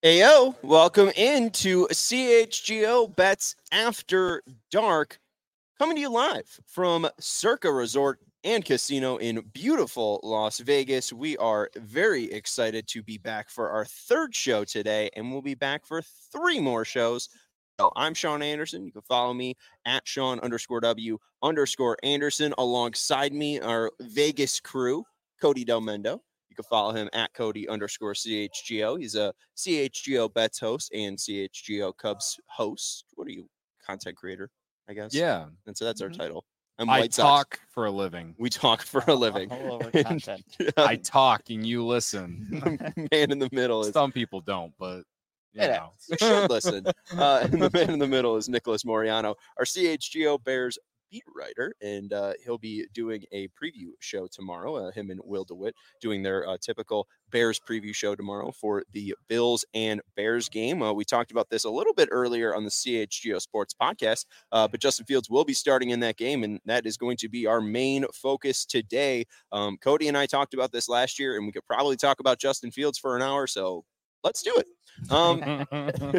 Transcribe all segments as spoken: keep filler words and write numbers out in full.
Ayo, welcome into C H G O Bets After Dark, coming to you live from Circa Resort and Casino in beautiful Las Vegas. We are very excited to be back for our third show today, and we'll be back for three more shows. So I'm Sean Anderson. You can follow me at Sean underscore W underscore Anderson. Alongside me, our Vegas crew, Cody Del Mendo. You can follow him at Cody underscore C H G O. He's a C H G O Bets host and C H G O Cubs host. What are you, content creator, I guess? Yeah. And so that's our Mhm. title. I'm I White talk Sox. for a living. We talk for a living. All over And, content. yeah, I talk and you listen. the man in the middle is Some people don't, but you Yeah. know. you should listen. Uh, and the man in the middle is Nicholas Moriano, our C H G O Bears beat writer, and uh, he'll be doing a preview show tomorrow. Uh, him and Will DeWitt doing their uh, typical Bears preview show tomorrow for the Bills and Bears game. Uh, we talked about this a little bit earlier on the C H G O Sports podcast, uh, but Justin Fields will be starting in that game, and that is going to be our main focus today. Um, Cody and I talked about this last year, and we could probably talk about Justin Fields for an hour, so let's do it. Um,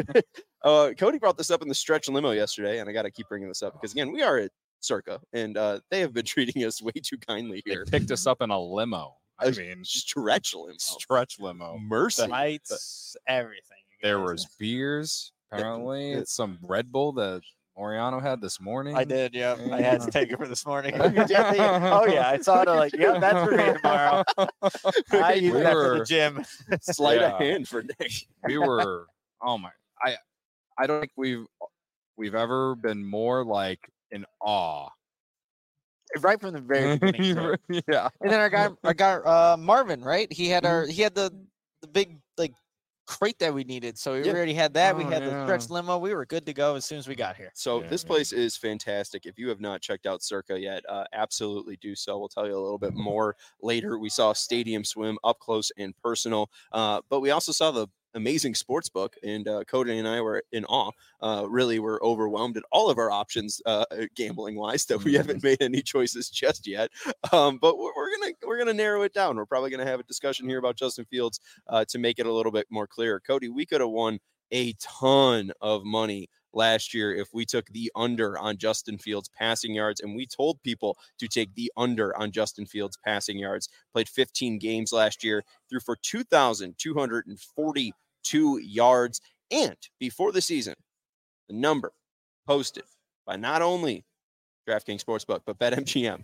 uh, Cody brought this up in the stretch limo yesterday, and I got to keep bringing this up because, again, we are at Circa, and uh, they have been treating us way too kindly They here. picked us up in a limo. I A mean, stretch limo. stretch limo. Mercy. Lights, everything. you There guys. was beers, apparently. uh, It's some Red Bull that Moriano had this morning. I did, yeah. I had to take it for this morning. Oh, you oh yeah, I saw it. Like, yeah, that's for me tomorrow. I use We that for were- the gym. Sleight Yeah. of hand for Nick. We were oh my I I don't think we've we've ever been more like in awe. Right from the very beginning. too. yeah. And then our guy, our guy, uh, Marvin, right? He had our, he had the, the big like crate that we needed. So we Yeah. already had that. we Oh, had the stretch yeah. limo. We were good to go as soon as we got here. So Yeah, this yeah. place is fantastic. If you have not checked out Circa yet, uh, absolutely do so. We'll tell you a little bit more later. We saw Stadium Swim up close and personal, uh, but we also saw the amazing sports book, and uh, Cody and I were in awe. Uh, really, we're overwhelmed at all of our options, uh, gambling wise, that we haven't made any choices just yet. Um, but we're, we're gonna we're gonna narrow it down. We're probably gonna have a discussion here about Justin Fields uh, to make it a little bit more clear. Cody, we could have won a ton of money last year if we took the under on Justin Fields passing yards, and we told people to take the under on Justin Fields passing yards. Played fifteen games last year, threw for two thousand two hundred forty-two yards, and before the season, the number posted by not only DraftKings Sportsbook but BetMGM,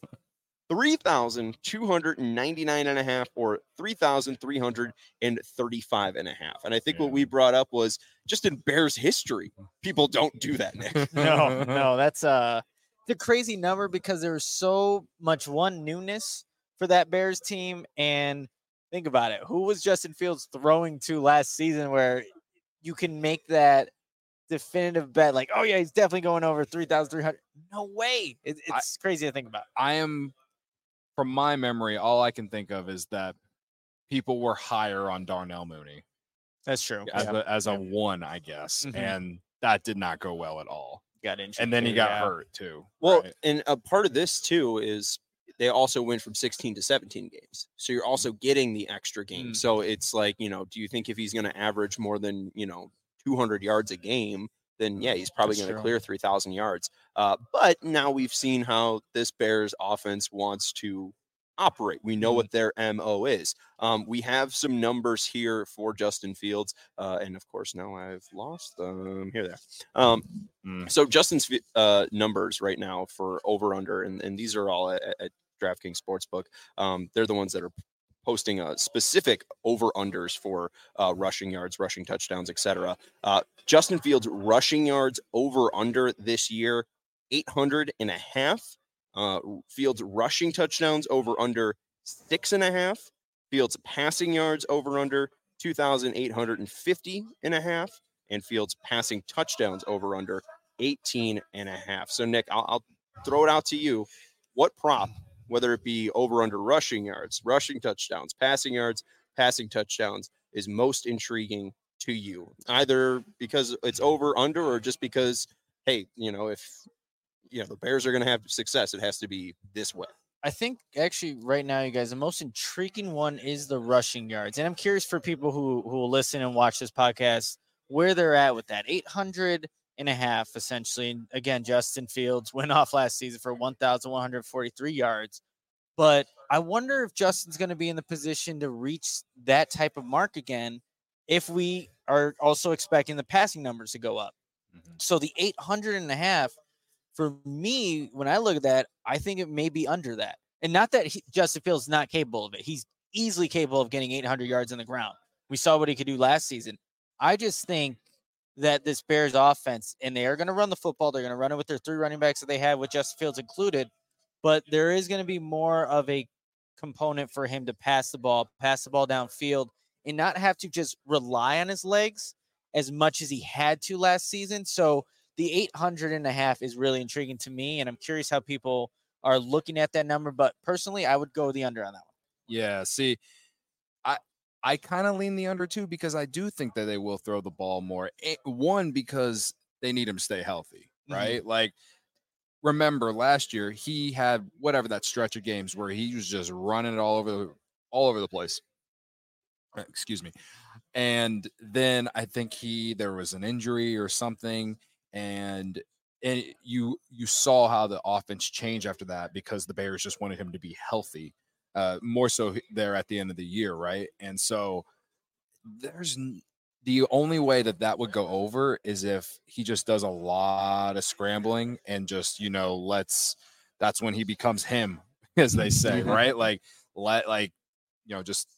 three thousand two hundred ninety-nine and a half or three thousand three hundred thirty-five and a half. And I think what Yeah. we brought up was just in Bears history, people don't do that, Nick. No, no, that's uh the crazy number because there was so much one newness for that Bears team. And think about it. Who was Justin Fields throwing to last season where you can make that definitive bet like, oh yeah, he's definitely going over three thousand three hundred? No way. It, I- it's crazy to think about. I am, from my memory, all I can think of is that people were higher on Darnell Mooney That's true. as a as a one, I guess, Mhm. and that did not go well at all. got injured. And then he too, got yeah. hurt too. Well, right? and a part of this too is they also went from sixteen to seventeen games. So you're also getting the extra game. Mm. So it's like, you know, do you think if he's going to average more than, you know, two hundred yards a game, then yeah, he's probably That's going to true. clear three thousand yards. Uh, but now we've seen how this Bears offense wants to operate. We know what their M O is. Um, we have some numbers here for Justin Fields. Uh, and of course, now I've lost them. Here they are. Um, Mm. so Justin's uh, numbers right now for over under, and, and these are all at, at DraftKings Sportsbook. Um, they're the ones that are posting uh, specific over unders for uh, rushing yards, rushing touchdowns, et cetera. Uh, Justin Fields rushing yards over under this year, eight hundred and a half. Uh, Fields rushing touchdowns over under six and a half. Fields passing yards over under two thousand eight hundred fifty and a half. And Fields passing touchdowns over under eighteen and a half. So Nick, I'll, I'll throw it out to you. What prop, whether it be over under rushing yards, rushing touchdowns, passing yards, passing touchdowns, is most intriguing to you? Either because it's over under or just because, hey, you know, if you know the Bears are going to have success, it has to be this way. I think actually right now, you guys, the most intriguing one is the rushing yards. And I'm curious for people who, who will listen and watch this podcast, where they're at with that eight hundred and a half, essentially. And again, Justin Fields went off last season for one thousand one hundred forty-three yards. But I wonder if Justin's going to be in the position to reach that type of mark again if we are also expecting the passing numbers to go up. Mm-hmm. So the eight hundred and a half, for me, when I look at that, I think it may be under that. And not that he, Justin Fields is not capable of it. He's easily capable of getting eight hundred yards on the ground. We saw what he could do last season. I just think that this Bears offense, and they are going to run the football. They're going to run it with their three running backs that they have, with Justin Fields included. But there is going to be more of a component for him to pass the ball, pass the ball downfield, and not have to just rely on his legs as much as he had to last season. So the eight hundred and a half is really intriguing to me, and I'm curious how people are looking at that number. But personally, I would go the under on that one. Yeah, see, I I kind of lean the under too, because I do think that they will throw the ball more. One, because they need him to stay healthy, right? Mm-hmm. Like, remember last year he had whatever that stretch of games where he was just running it all over the all over the place. Excuse me. And then I think he there was an injury or something, and and you you saw how the offense changed after that, because the Bears just wanted him to be healthy, uh, more so there at the end of the year, right? And so there's the only way that that would go over is if he just does a lot of scrambling and just, you know, let's that's when he becomes him, as they say, right? Like let like you know just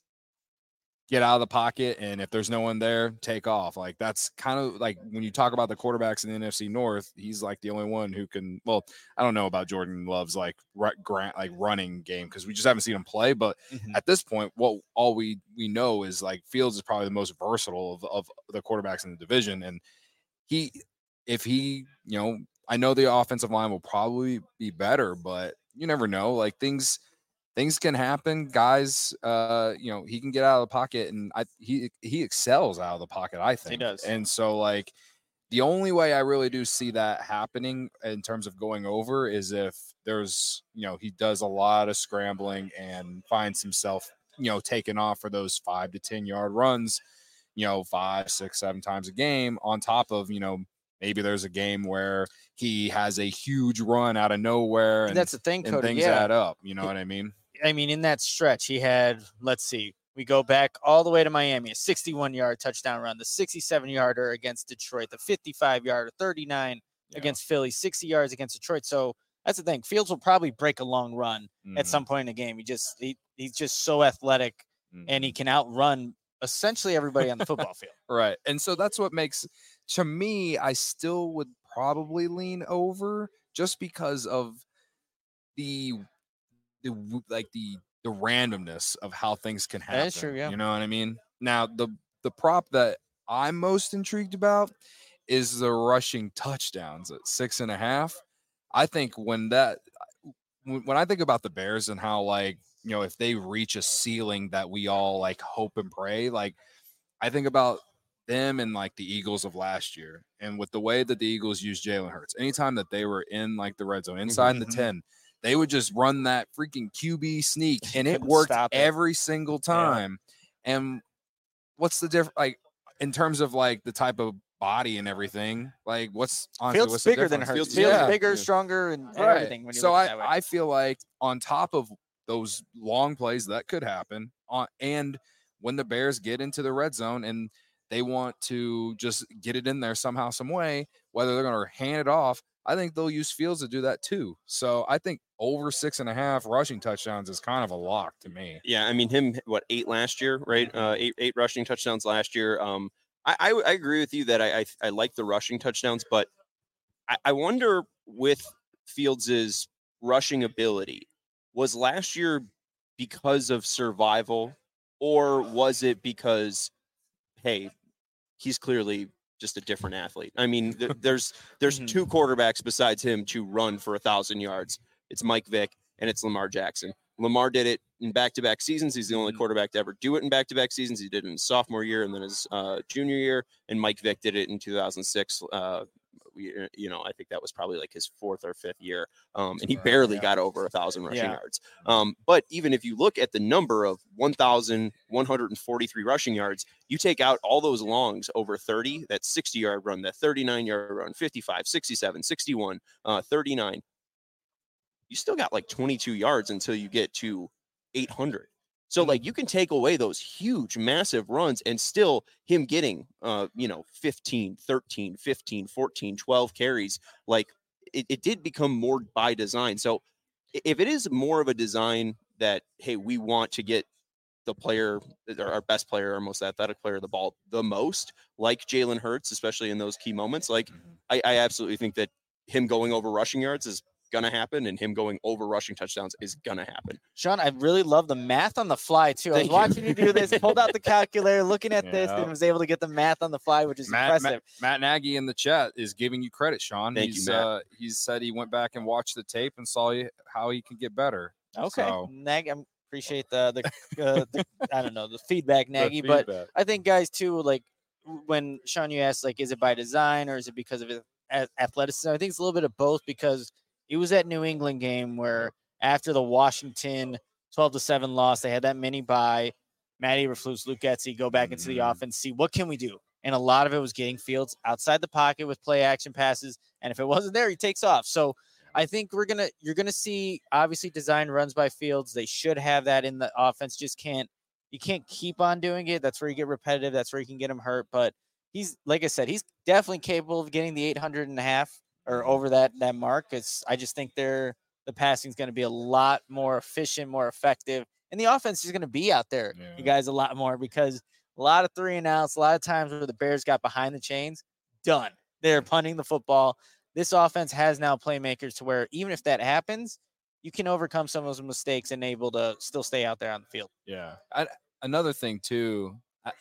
get out of the pocket, and if there's no one there, take off. Like, that's kind of like when you talk about the quarterbacks in the N F C North, he's like the only one who can. Well, I don't know about Jordan Love's like grant like running game, because we just haven't seen him play. But mm-hmm. at this point, what all we we know is like Fields is probably the most versatile of, of the quarterbacks in the division, and he if he you know I know the offensive line will probably be better, but you never know. Like things. Things can happen, guys. Uh, you know, he can get out of the pocket, and I he he excels out of the pocket, I think. He does. And so, like, the only way I really do see that happening in terms of going over is if there's, you know, he does a lot of scrambling and finds himself, you know, taking off for those five to ten yard runs, you know, five, six, seven times a game. On top of, you know, maybe there's a game where he has a huge run out of nowhere, and, and that's the thing, and Cody, things yeah. add up. You know what I mean? I mean, in that stretch, he had, let's see, we go back all the way to Miami, a sixty-one yard touchdown run, the sixty-seven yarder against Detroit, the fifty-five yarder, thirty-nine yeah. against Philly, sixty yards against Detroit. So that's the thing. Fields will probably break a long run mm. at some point in the game. He just he, he's just so athletic, mm. and he can outrun essentially everybody on the football field. Right. And so that's what makes, to me, I still would probably lean over, just because of the the like the the randomness of how things can happen. That's true, yeah. You know what I mean? Now, the the prop that I'm most intrigued about is the rushing touchdowns at six and a half. I think when that when I think about the Bears and how, like, you know, if they reach a ceiling that we all like hope and pray, like I think about them and like the Eagles of last year, and with the way that the Eagles used Jalen Hurts, anytime that they were in like the red zone inside mm-hmm. the ten, they would just run that freaking Q B sneak, and it worked every single time. Yeah. And what's the difference, like, in terms of like the type of body and everything? Like, what's honestly Fields what's bigger the than Hurts? Fields, Fields yeah. bigger, stronger, and, and right. everything. When you so look I, at that way. I feel like on top of those long plays that could happen, on and when the Bears get into the red zone and they want to just get it in there somehow, some way, whether they're going to hand it off, I think they'll use Fields to do that too. So I think over six and a half rushing touchdowns is kind of a lock to me. Yeah, I mean, him, what, eight last year, right? Uh, eight eight rushing touchdowns last year. Um, I, I, I agree with you that I, I I like the rushing touchdowns, but I, I wonder with Fields' rushing ability, was last year because of survival, or was it because, hey, he's clearly just a different athlete? I mean, th- there's there's mm-hmm. two quarterbacks besides him to run for a thousand yards. It's Mike Vick and it's Lamar Jackson. Lamar did it in back-to-back seasons. He's the only mm-hmm. quarterback to ever do it in back-to-back seasons. He did it in his sophomore year and then his uh, junior year. And Mike Vick did it in two thousand six. Uh, we, you know, I think that was probably like his fourth or fifth year. Um, and he Right, barely yeah. got over a thousand rushing Yeah. yards. Um, but even if you look at the number of one thousand one hundred forty-three rushing yards, you take out all those longs over thirty, that sixty yard run, that thirty-nine yard run, fifty-five, sixty-seven, sixty-one, uh, thirty-nine, you still got like twenty-two yards until you get to eight hundred. So like you can take away those huge, massive runs and still him getting, uh, you know, fifteen, thirteen, fifteen, fourteen, twelve carries. Like it, it did become more by design. So i- if it is more of a design that, hey, we want to get the player, our best player, our most athletic player, the ball the most, like Jalen Hurts, especially in those key moments, like I, I absolutely think that him going over rushing yards is gonna happen, and him going over rushing touchdowns is gonna happen. Sean, I really love the math on the fly too. I was Thank you. watching you do this, pulled out the calculator, looking at this, Yeah. and was able to get the math on the fly, which is Matt, impressive. Matt, Matt Nagy in the chat is giving you credit, Sean. Thank you, he's, Matt. Uh, he's said he went back and watched the tape and saw you, how he can get better. Okay, So- Nag, I appreciate the the, uh, the I don't know the feedback, The Nagy, but feedback. I think guys too, like when Sean, you asked like, is it by design or is it because of his a- athleticism? I think it's a little bit of both because it was that New England game where after the Washington twelve to seven loss, they had that mini bye. Matty Eberflus, Luke Getzey go back into the Mhm. offense, see what can we do, and a lot of it was getting Fields outside the pocket with play action passes, and if it wasn't there, he takes off. So I think we're gonna you're gonna see obviously design runs by Fields. They should have that in the offense. Just can't you can't keep on doing it. That's where you get repetitive. That's where you can get him hurt. But he's like I said, he's definitely capable of getting the eight hundred and a half or over that that mark. It's I just think they're the passing is going to be a lot more efficient, more effective, and the offense is going to be out there, Yeah. you guys, a lot more because a lot of three and outs, a lot of times where the Bears got behind the chains, done. They're punting the football. This offense has now playmakers to where even if that happens, you can overcome some of those mistakes and able to still stay out there on the field. Yeah. I, another thing too, I,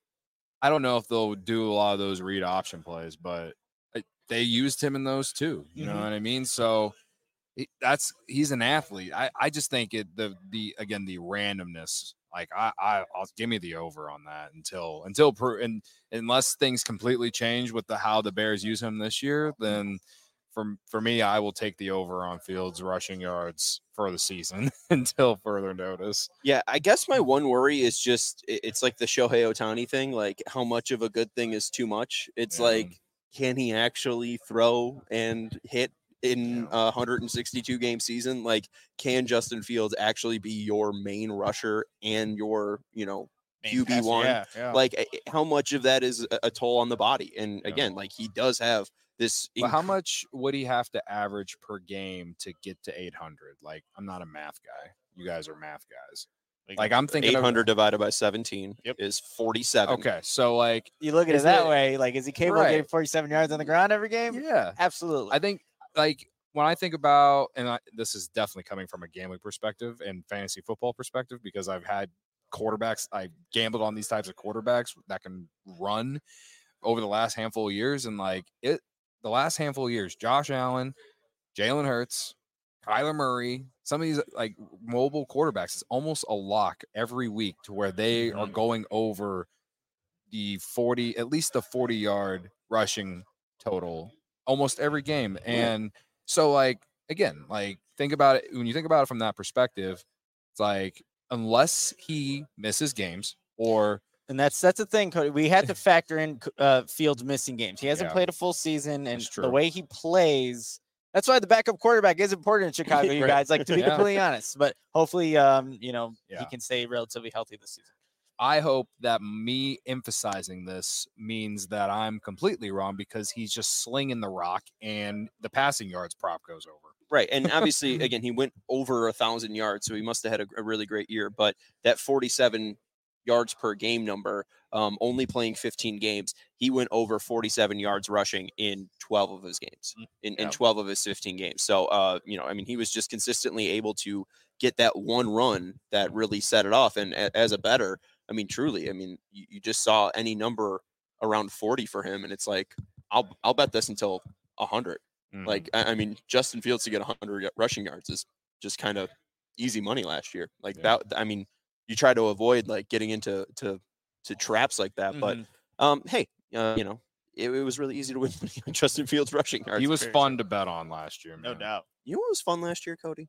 I don't know if they'll do a lot of those read option plays, but I, they used him in those too. You know Mhm. what I mean? So he, that's he's an athlete. I, I just think it the the again the randomness. Like I I I'll give me the over on that until until pro, and unless things completely change with the how the Bears use him this year, then for for me I will take the over on Fields rushing yards for the season until further notice. Yeah, I guess my one worry is just i- it's like the Shohei Otani thing. Like, how much of a good thing is too much? It's Yeah. like, can he actually throw and hit in Yeah. a one hundred sixty-two game season? Like, can Justin Fields actually be your main rusher and your, you know, Q B one? Yeah, yeah. Like, eh, how much of that is a, a toll on the body? And Yeah. again, like he does have this. But how inc- much would he have to average per game to get to eight hundred? Like I'm not a math guy. You guys are math guys. Like I'm thinking eight of- hundred divided by seventeen Yep. is forty-seven. Okay, so like you look at Is it that it- way. Like, is he capable of Right. getting forty-seven yards on the ground every game? yeah, Absolutely. I think like when I think about, and I, this is definitely coming from a gambling perspective and fantasy football perspective, because I've had quarterbacks, I gambled on these types of quarterbacks that can run over the last handful of years. And like it, the last handful of years, Josh Allen, Jalen Hurts, Kyler Murray, some of these like mobile quarterbacks, it's almost a lock every week to where they are going over the forty, at least the forty yard rushing total almost every game. And so like again, like think about it when you think about it from that perspective, it's like unless he misses games or And that's that's the thing, Cody. We had to factor in uh, Fields missing games. He hasn't Yeah. played a full season, and That's the true. way he plays, that's why the backup quarterback is important in Chicago, you Right. guys. Like to be Yeah. completely honest, but hopefully, um, you know, he Yeah. can stay relatively healthy this season. I hope that me emphasizing this means that I'm completely wrong because he's just slinging the rock and the passing yards prop goes over. Right. And obviously, again, he went over a thousand yards, so he must have had a, a really great year. But that forty-seven yards per game number, um, only playing fifteen games, he went over forty-seven yards rushing in twelve of his games, in, in Yeah. twelve of his fifteen games. So, uh, you know, I mean, he was just consistently able to get that one run that really set it off. And a, as a better, I mean, truly, I mean, you, you just saw any number around forty for him, and it's like, I'll I'll bet this until one hundred. Like, I, I mean, Justin Fields to get one hundred rushing yards is just kind of easy money last year. Like Yeah. that, I mean, you try to avoid like getting into to to traps like that. But Mhm. um, hey, uh, you know, it, it was really easy to win money on Justin Fields rushing yards. He was very fun true. to bet on last year, man. No doubt. You know what was fun last year, Cody?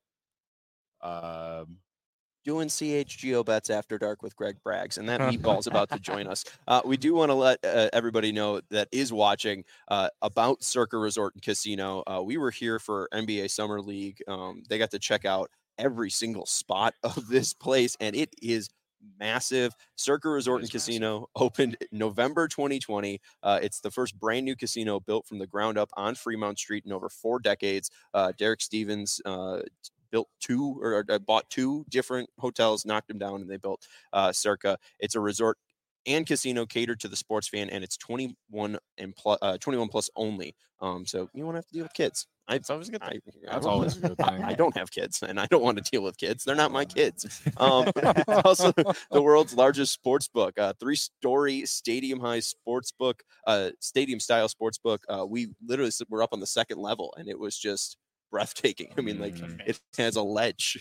Um, Doing C H G O bets after dark with Greg Braggs, and that meatball's about to join us. Uh, we do want to let uh, everybody know that is watching uh, about Circa Resort and Casino. Uh, we were here for N B A Summer League. Um, they got to check out every single spot of this place, and it is massive. Circa Resort and Casino opened November twenty twenty. Uh, it's the first brand new casino built from the ground up on Fremont Street in over four decades. Uh, Derek Stevens uh, built two or, or bought two different hotels, knocked them down, and they built uh, Circa. It's a resort and casino catered to the sports fan, and it's twenty-one and plus, uh, twenty-one plus only. Um, so you won't have to deal with kids. I, It's always a good thing. I, That's I- always a good thing. I don't have kids, and I don't want to deal with kids. They're not my kids. Um, it's also the world's largest sports book, uh, three-story stadium-high sports book, uh, stadium-style sports book. Uh, we literally s- were up on the second level, and it was just breathtaking. I mean, like Mm. it has a ledge.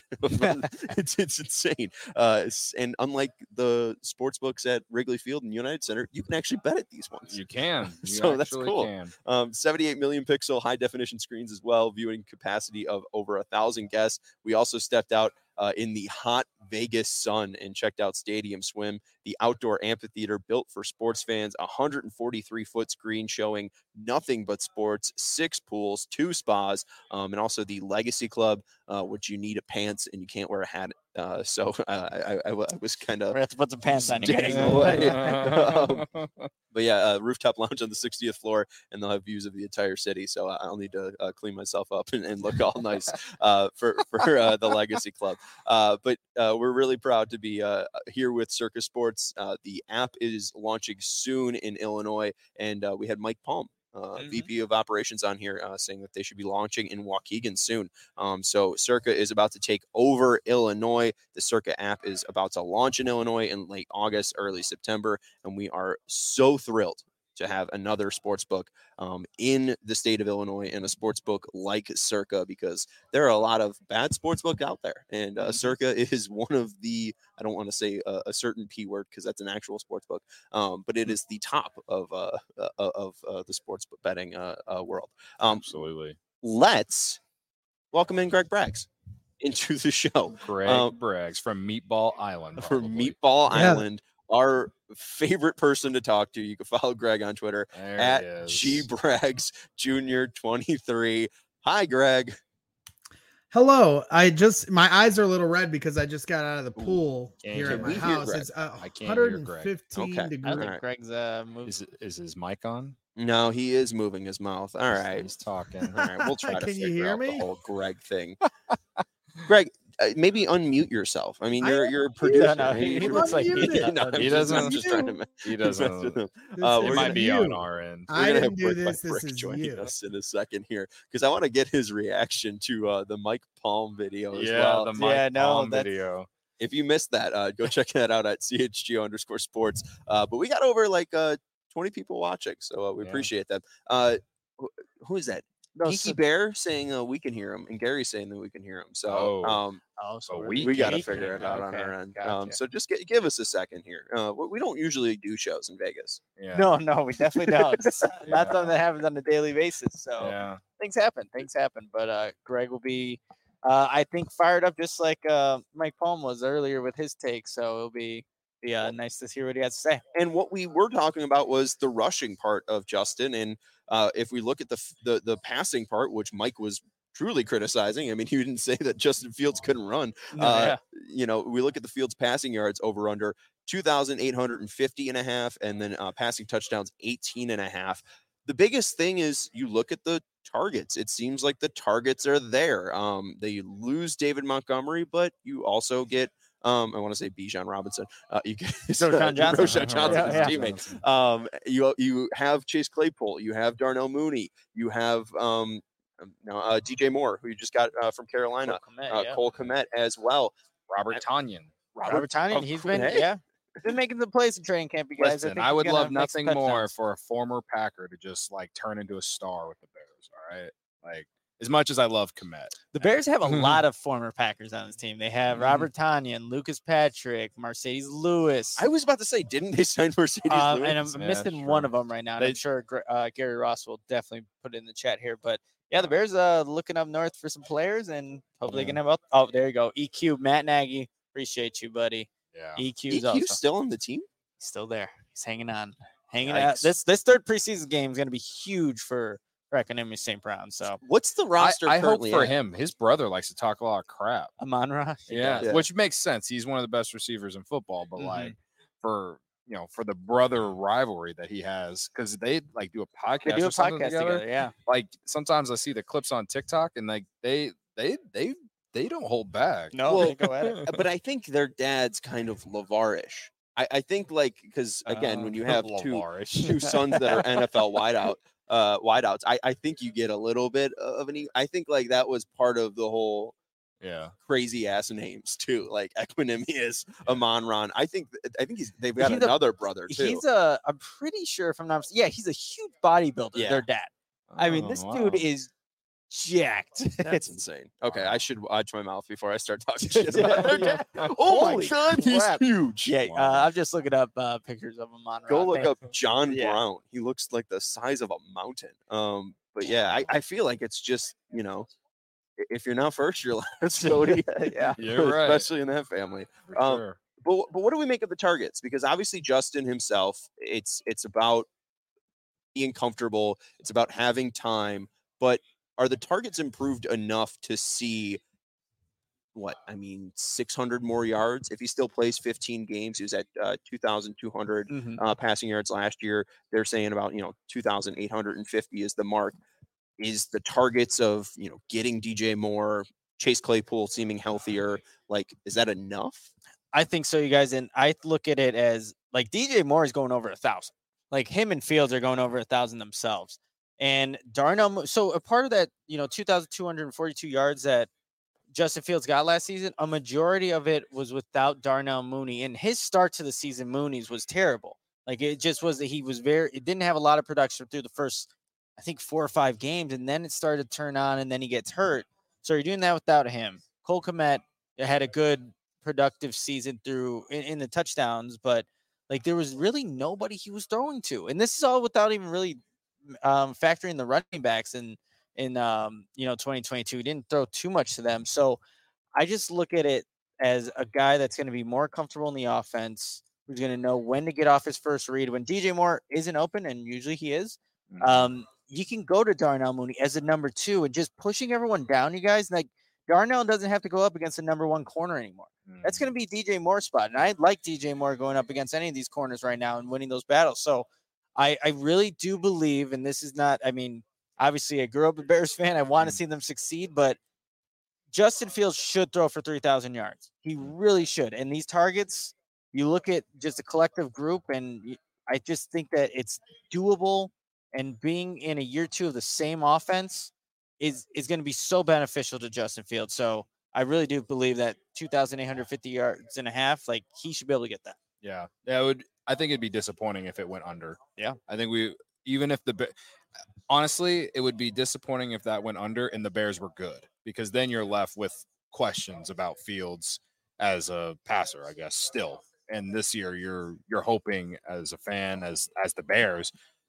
it's it's insane. Uh, s- and unlike the sports books at Wrigley Field and United Center, you can actually bet at these ones. You can. You So that's actually cool. Can. Um, seventy-eight million pixel high definition screens as well, viewing capacity of over a thousand guests. We also stepped out uh, in the hot Vegas sun and checked out Stadium Swim, the outdoor amphitheater built for sports fans, one hundred forty-three foot screen showing nothing but sports, six pools, two spas, um, and also the Legacy Club, uh, which you need a pants and you can't wear a hat. Uh, so uh, I, I, I w- I was kind We're of gonna have to put some pants on. You gotta Dang. go. away. Um, But yeah, uh, rooftop lounge on the sixtieth floor, and they'll have views of the entire city. So I- I'll need to uh, clean myself up and, and look all nice uh, for for uh, the Legacy Club. Uh, but uh, we're really proud to be uh, here with Circa Sports. Uh, the app is launching soon in Illinois, and uh, we had Mike Palm, uh, Mhm. V P of Operations, on here uh, saying that they should be launching in Waukegan soon. Um, so Circa is about to take over Illinois. The Circa app is about to launch in Illinois in late August, early September, and we are so thrilled to have another sports book um, in the state of Illinois, and a sports book like Circa, because there are a lot of bad sports books out there, and uh, Mhm. Circa is one of the, I don't want to say a, a certain P word because that's an actual sports book, um, but it is the top of uh, uh, of uh, the sports book betting uh, uh, world. Um, Absolutely. let's welcome in Greg Braggs into the show. Greg um, Braggs from Meatball Island. From probably. Meatball Yeah. Island, our favorite person to talk to. You can follow Greg on Twitter There at he is. G Braggs Junior twenty-three. Hi, Greg. Hello. I just my eyes are a little red because I just got out of the Ooh. pool Can't here hear at we my hear house. Greg? It's uh, I can't hear Greg. one hundred fifteen Okay. I degrees. think Alright. Greg's uh moved. Is is his mic on? No, he is moving his mouth. All He's- right. He's talking. All right. We'll try to Can you figure hear out the me? whole Greg thing. Greg, uh, maybe unmute yourself. I mean, I you're am you're a muted. producer. No, no, Maybe he- you he should- looks like he's No, not I'm He just- I'm doesn't- just trying to me- He mess with doesn't. him. This Uh, is It we're might gonna be you. on our end. We're I gonna didn't have do Brick by this. This Brick is joining you. us in a second here, because I want to get his reaction to uh, the Mike Palm video as Yeah, well. the Mike Yeah, no, Palm that's- video. If you missed that, uh, go check that out at C H G O underscore sports. Uh, but we got over like uh, twenty people watching, so uh, we Yeah. appreciate them. Uh, wh- who is that? No, Geeky so- Bear saying uh, we can hear him, and Gary's saying that we can hear him. So Oh. um, Oh, so So we're- we we got to can figure hear it him. out on Okay, our end. gotcha. Um, so just gi- give us a second here. Uh, we we don't usually do shows in Vegas. Yeah. No, no, we definitely don't. It's not Yeah. something that happens on a daily basis. So Yeah. things happen. Things happen. But uh, Greg will be, uh, I think, fired up just like uh, Mike Palm was earlier with his take. So it'll be be uh, nice to hear what he has to say. And what we were talking about was the rushing part of Justin. And uh, if we look at the, f- the the passing part, which Mike was truly criticizing, I mean, he didn't say that Justin Fields couldn't run. No, Uh, yeah. You know, we look at the Fields passing yards over under two thousand eight hundred fifty and a half, and then uh, passing touchdowns eighteen and a half. The biggest thing is you look at the targets. It seems like the targets are there. Um, they lose David Montgomery, but you also get, um, I want to say Bijan Robinson. Uh, you get Roshan Johnson. Roshan Johnson, Yeah, his yeah. teammate. Um, you you have Chase Claypool, you have Darnell Mooney, you have um, now uh, D J Moore, who you just got uh, from Carolina, Cole Kmet, uh, yeah. Cole Kmet as well. Robert Tanyan. Robert Tanyan, oh, he's been hey. yeah, been making the plays in training camp. You guys, Listen, think I he's would gonna love make some nothing more touchdowns. for a former Packer to just like turn into a star with the Bears. All right, like as much as I love Komet. The Bears have a lot of former Packers on this team. They have Mhm. Robert Tonyan, Lucas Patrick, Mercedes Lewis. I was about to say, didn't they sign Mercedes Uh, Lewis? and I'm Yeah, missing sure. one of them right now. And I'm They- sure Gr- uh, Gary Ross will definitely put it in the chat here. But yeah, the Bears uh looking up north for some players, and hopefully Yeah. they can have. Oh, there you go. E Q, Matt Nagy. Appreciate you, buddy. Yeah. E Q's E Q's also still on the team? still there. He's hanging on, hanging out. Yikes. This this third preseason game is going to be huge for Economy Saint Brown. So What's the I, roster I hope currently for at? him. His brother likes to talk a lot of crap. Amon Ra. Yeah, Yeah. which makes sense. He's one of the best receivers in football, but Mhm. like for you know for the brother rivalry that he has, because they like do a podcast. They do or a something podcast together. together. Yeah. Like sometimes I see the clips on TikTok, and like they they they they don't hold back. No, Well, they go at it. Uh, But I think their dad's kind of LeVar-ish. I, I think like because again, when you have two Lavarish. two sons that are N F L wideout uh wideouts, I, I think you get a little bit of an e- I think like that was part of the whole yeah, crazy ass names too, like Equinemius, Amon Ron. I think th- I think he's they've got He's a- another brother too. He's a. I'm pretty sure if I'm not. mis- Yeah, he's a huge bodybuilder. Yeah. Their dad. I mean, Oh, this wow. dude is jacked. That's insane. Okay, I should watch my mouth before I start talking shit about Yeah, their yeah. dad. Oh my Holy god, he's crap. huge. Yeah, Wow. uh, I'm just looking up uh, pictures of him on. Go Rock look Band. up John Yeah. Brown. He looks like the size of a mountain. Um, but yeah, I, I feel like it's just, you know, i- if you're not first, you're last, Cody. Yeah. You're right. Especially in that family. For um, sure. But but what do we make of the targets? Because obviously Justin himself, it's it's about being comfortable. It's about having time. But are the targets improved enough to see what I mean, six hundred more yards if he still plays fifteen games? He was at uh, two thousand two hundred Mhm. uh, passing yards last year. They're saying about you know two thousand eight hundred fifty is the mark. Is the targets of you know getting D J Moore, Chase Claypool seeming healthier? Like, is that enough? I think so, you guys. And I look at it as like D J Moore is going over a thousand. Like him and Fields are going over a thousand themselves. And Darnell, Mo- so a part of that, you know, two thousand two hundred forty-two yards that Justin Fields got last season, a majority of it was without Darnell Mooney. And his start to the season, Mooney's was terrible. Like it just was that he was very, it didn't have a lot of production through the first, I think, four or five games. And then it started to turn on and then he gets hurt. So you're doing that without him. Cole Kmet had a good, productive season through in, in the touchdowns, but like there was really nobody he was throwing to. And this is all without even really um, factoring the running backs in, in um, you know, twenty twenty-two. He didn't throw too much to them. So I just look at it as a guy that's going to be more comfortable in the offense, who's going to know when to get off his first read. When D J Moore isn't open, and usually he is, Mhm. um, you can go to Darnell Mooney as a number two and just pushing everyone down, you guys. Like Darnell doesn't have to go up against the number one corner anymore. That's going to be D J Moore's spot. And I like D J Moore going up against any of these corners right now and winning those battles. So I, I really do believe, and this is not, I mean, obviously I grew up a Bears fan. I want to see them succeed, but Justin Fields should throw for three thousand yards. He really should. And these targets, you look at just a collective group, and y- I just think that it's doable. And being in a year two of the same offense is is going to be so beneficial to Justin Fields. So I really do believe that two thousand eight hundred fifty yards and a half, like he should be able to get that. Yeah, yeah. It would. I think it'd be disappointing if it went under. Yeah. I think we even if the Ba- honestly, it would be disappointing if that went under and the Bears were good, because then you're left with questions about Fields as a passer, I guess. Still, and this year you're you're hoping as a fan, as as the Bears,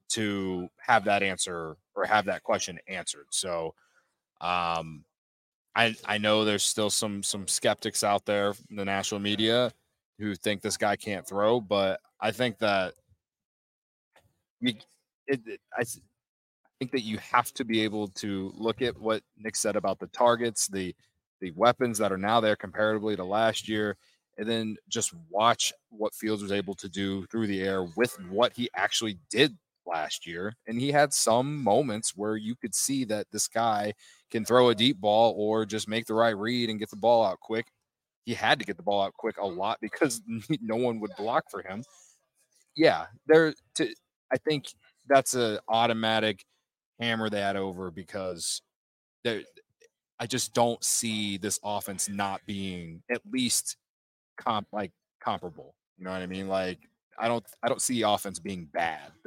to have that answer or have that question answered. So, um, I I know there's still some some skeptics out there in the national media who think this guy can't throw, but I think that you, it, it, I s- think that you have to be able to look at what Nick said about the targets, the the weapons that are now there comparatively to last year, and then just watch what Fields was able to do through the air with what he actually did last year. And he had some moments where you could see that this guy can throw a deep ball or just make the right read and get the ball out quick. He had to get the ball out quick a lot because no one would block for him. Yeah, there. To I think that's a automatic hammer that over because there. I just don't see this offense not being at least comp like comparable. You know what I mean? Like I don't I don't see offense being bad. There's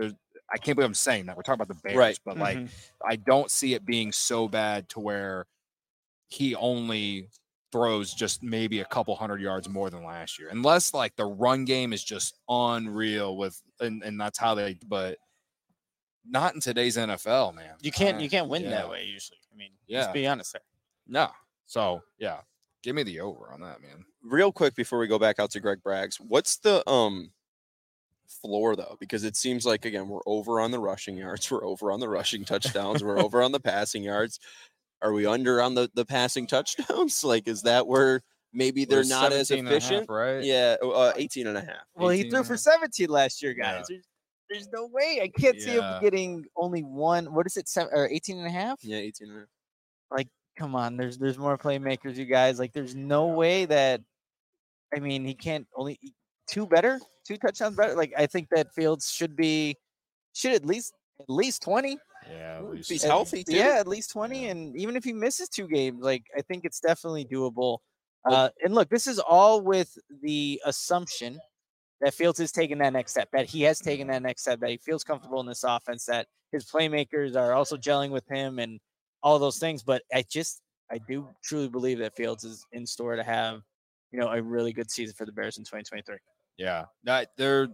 I can't believe I'm saying that. We're talking about the Bears, Right. but like, Mhm. I don't see it being so bad to where he only throws just maybe a couple hundred yards more than last year, unless like the run game is just unreal with, and, and that's how they, but not in today's N F L, man. You can't I- you can't win yeah. that way usually. I mean, Yeah. let's be honest there. No. So yeah, give me the over on that, man. Real quick before we go back out to Greg Braggs, what's the um floor though? Because it seems like again we're over on the rushing yards, we're over on the rushing touchdowns, we're over on the passing yards. Are we under on the the passing touchdowns? Like, is that where maybe they're Was not as seventeen and a half, efficient? right? Yeah, uh, eighteen and a half. Well, he eighteen threw and a for half. seventeen last year, Yeah. guys. There's, there's no way. I can't see him Yeah. getting only one. What is it? Seven or eighteen and a half? Yeah, eighteen and a half. Like, come on. There's there's more playmakers, you guys. Like, there's no way that. I mean, he can't only two better, two touchdowns better. Like, I think that Fields should be should at least at least twenty. Yeah, at Ooh, least he's At- healthy, too. Yeah, at least twenty. Yeah. And even if he misses two games, like I think it's definitely doable. Well- Uh, and look, this is all with the assumption that Fields is taking that next step, that he has taken that next step, that he feels comfortable in this offense, that his playmakers are also gelling with him and all those things. But I just, I do truly believe that Fields is in store to have, you know, a really good season for the Bears in twenty twenty-three. Yeah, that there.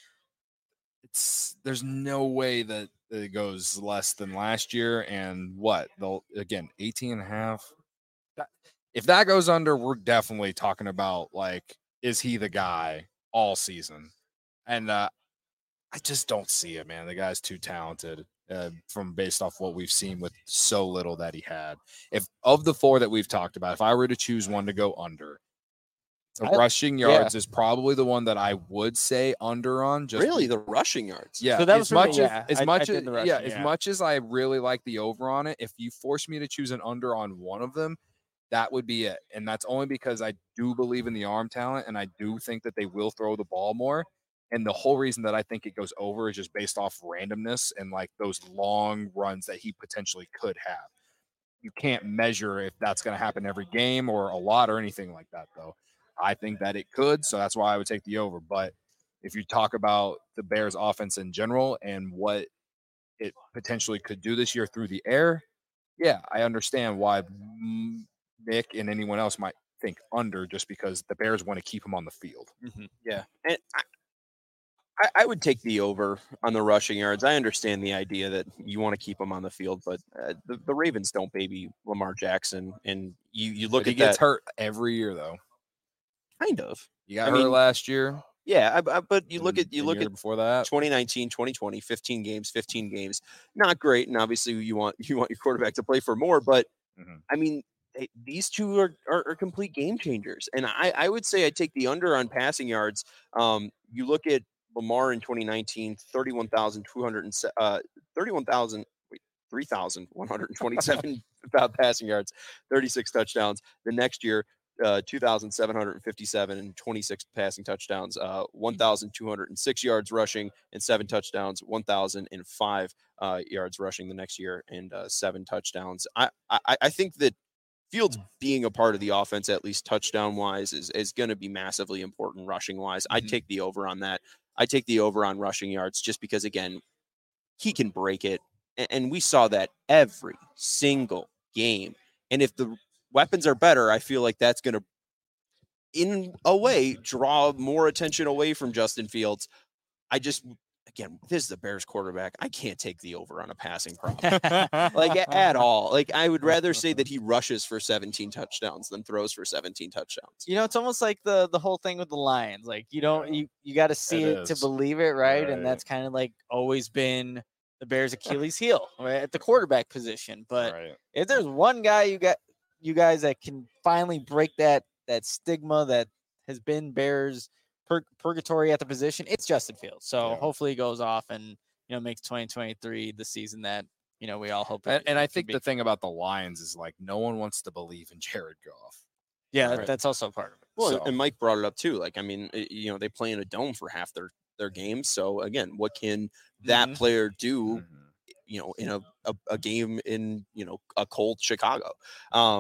It's there's no way that it goes less than last year. And what they'll again eighteen and a half. That, if that goes under, we're definitely talking about like, is he the guy all season? And uh, I just don't see it, man. The guy's too talented. Uh, from based off what we've seen with so little that he had. If of the four that we've talked about, if I were to choose one to go under, the I- rushing yeah. yards is probably the one that I would say under on. Just Really, be- the rushing yards. yeah. So that as was for me, much yeah. as, as I- I much did as the yeah, rushing, as yeah. much as I really like the over on it, if you force me to choose an under on one of them, that would be it. And that's only because I do believe in the arm talent, and I do think that they will throw the ball more. And the whole reason that I think it goes over is just based off randomness and like those long runs that he potentially could have. You can't measure if that's going to happen every game or a lot or anything like that, though. I think that it could, so that's why I would take the over. But if you talk about the Bears' offense in general and what it potentially could do this year through the air, yeah, I understand why mm, Nick and anyone else might think under, just because the Bears want to keep him on the field. Yeah, and I, I, I would take the over on the rushing yards. I understand the idea that you want to keep him on the field, but uh, the, the Ravens don't baby Lamar Jackson, and you you look But he at gets that hurt every year, though. kind of. You got I hurt mean, last year. Yeah, I, I, but you look and at you the look year at before that. twenty nineteen, twenty twenty, fifteen games, fifteen games. Not great, and obviously you want you want your quarterback to play for more, but Mhm. I mean, they, these two are, are are complete game changers, and I I would say I take the under on passing yards. Um, you look at Lamar in twenty nineteen, thirty-one thousand two hundred and uh thirty-one thousand wait, three thousand one hundred twenty-seven about passing yards, thirty-six touchdowns. The next year, uh, two thousand seven hundred fifty-seven and twenty-six passing touchdowns, uh, one thousand two hundred six yards rushing and seven touchdowns, one thousand five uh, yards rushing the next year and uh, seven touchdowns. I, I, I think that Fields being a part of the offense, at least touchdown wise, is, is going to be massively important rushing wise. I'd Mhm. take the over on that. I take the over on rushing yards just because, again, he can break it. And, and we saw that every single game. And if the weapons are better, I feel like that's going to, in a way, draw more attention away from Justin Fields. I just, again, this is the Bears quarterback. I can't take the over on a passing prop. like a- at all. Like I would rather say that he rushes for seventeen touchdowns than throws for seventeen touchdowns. You know, it's almost like the the whole thing with the Lions. Like you don't you you got to see It it, to is. believe it, right? And Right. that's kind of like always been the Bears' Achilles heel, right, at the quarterback position. But Right. if there's one guy you got you guys that can finally break that that stigma that has been Bears pur- purgatory at the position, it's Justin Fields. So Yeah. hopefully he goes off and you know makes twenty twenty-three the season that you know we all hope. And, it, and it I can think be. the thing about the Lions is like no one wants to believe in Jared Goff. yeah, Right. that's also part of it. Well, So- and Mike brought it up too. Like, I mean, it- you know, they play in a dome for half their their games. So again, what can that Mhm. player do? Mhm. You know, in a, a, a game in you know a cold Chicago. Um,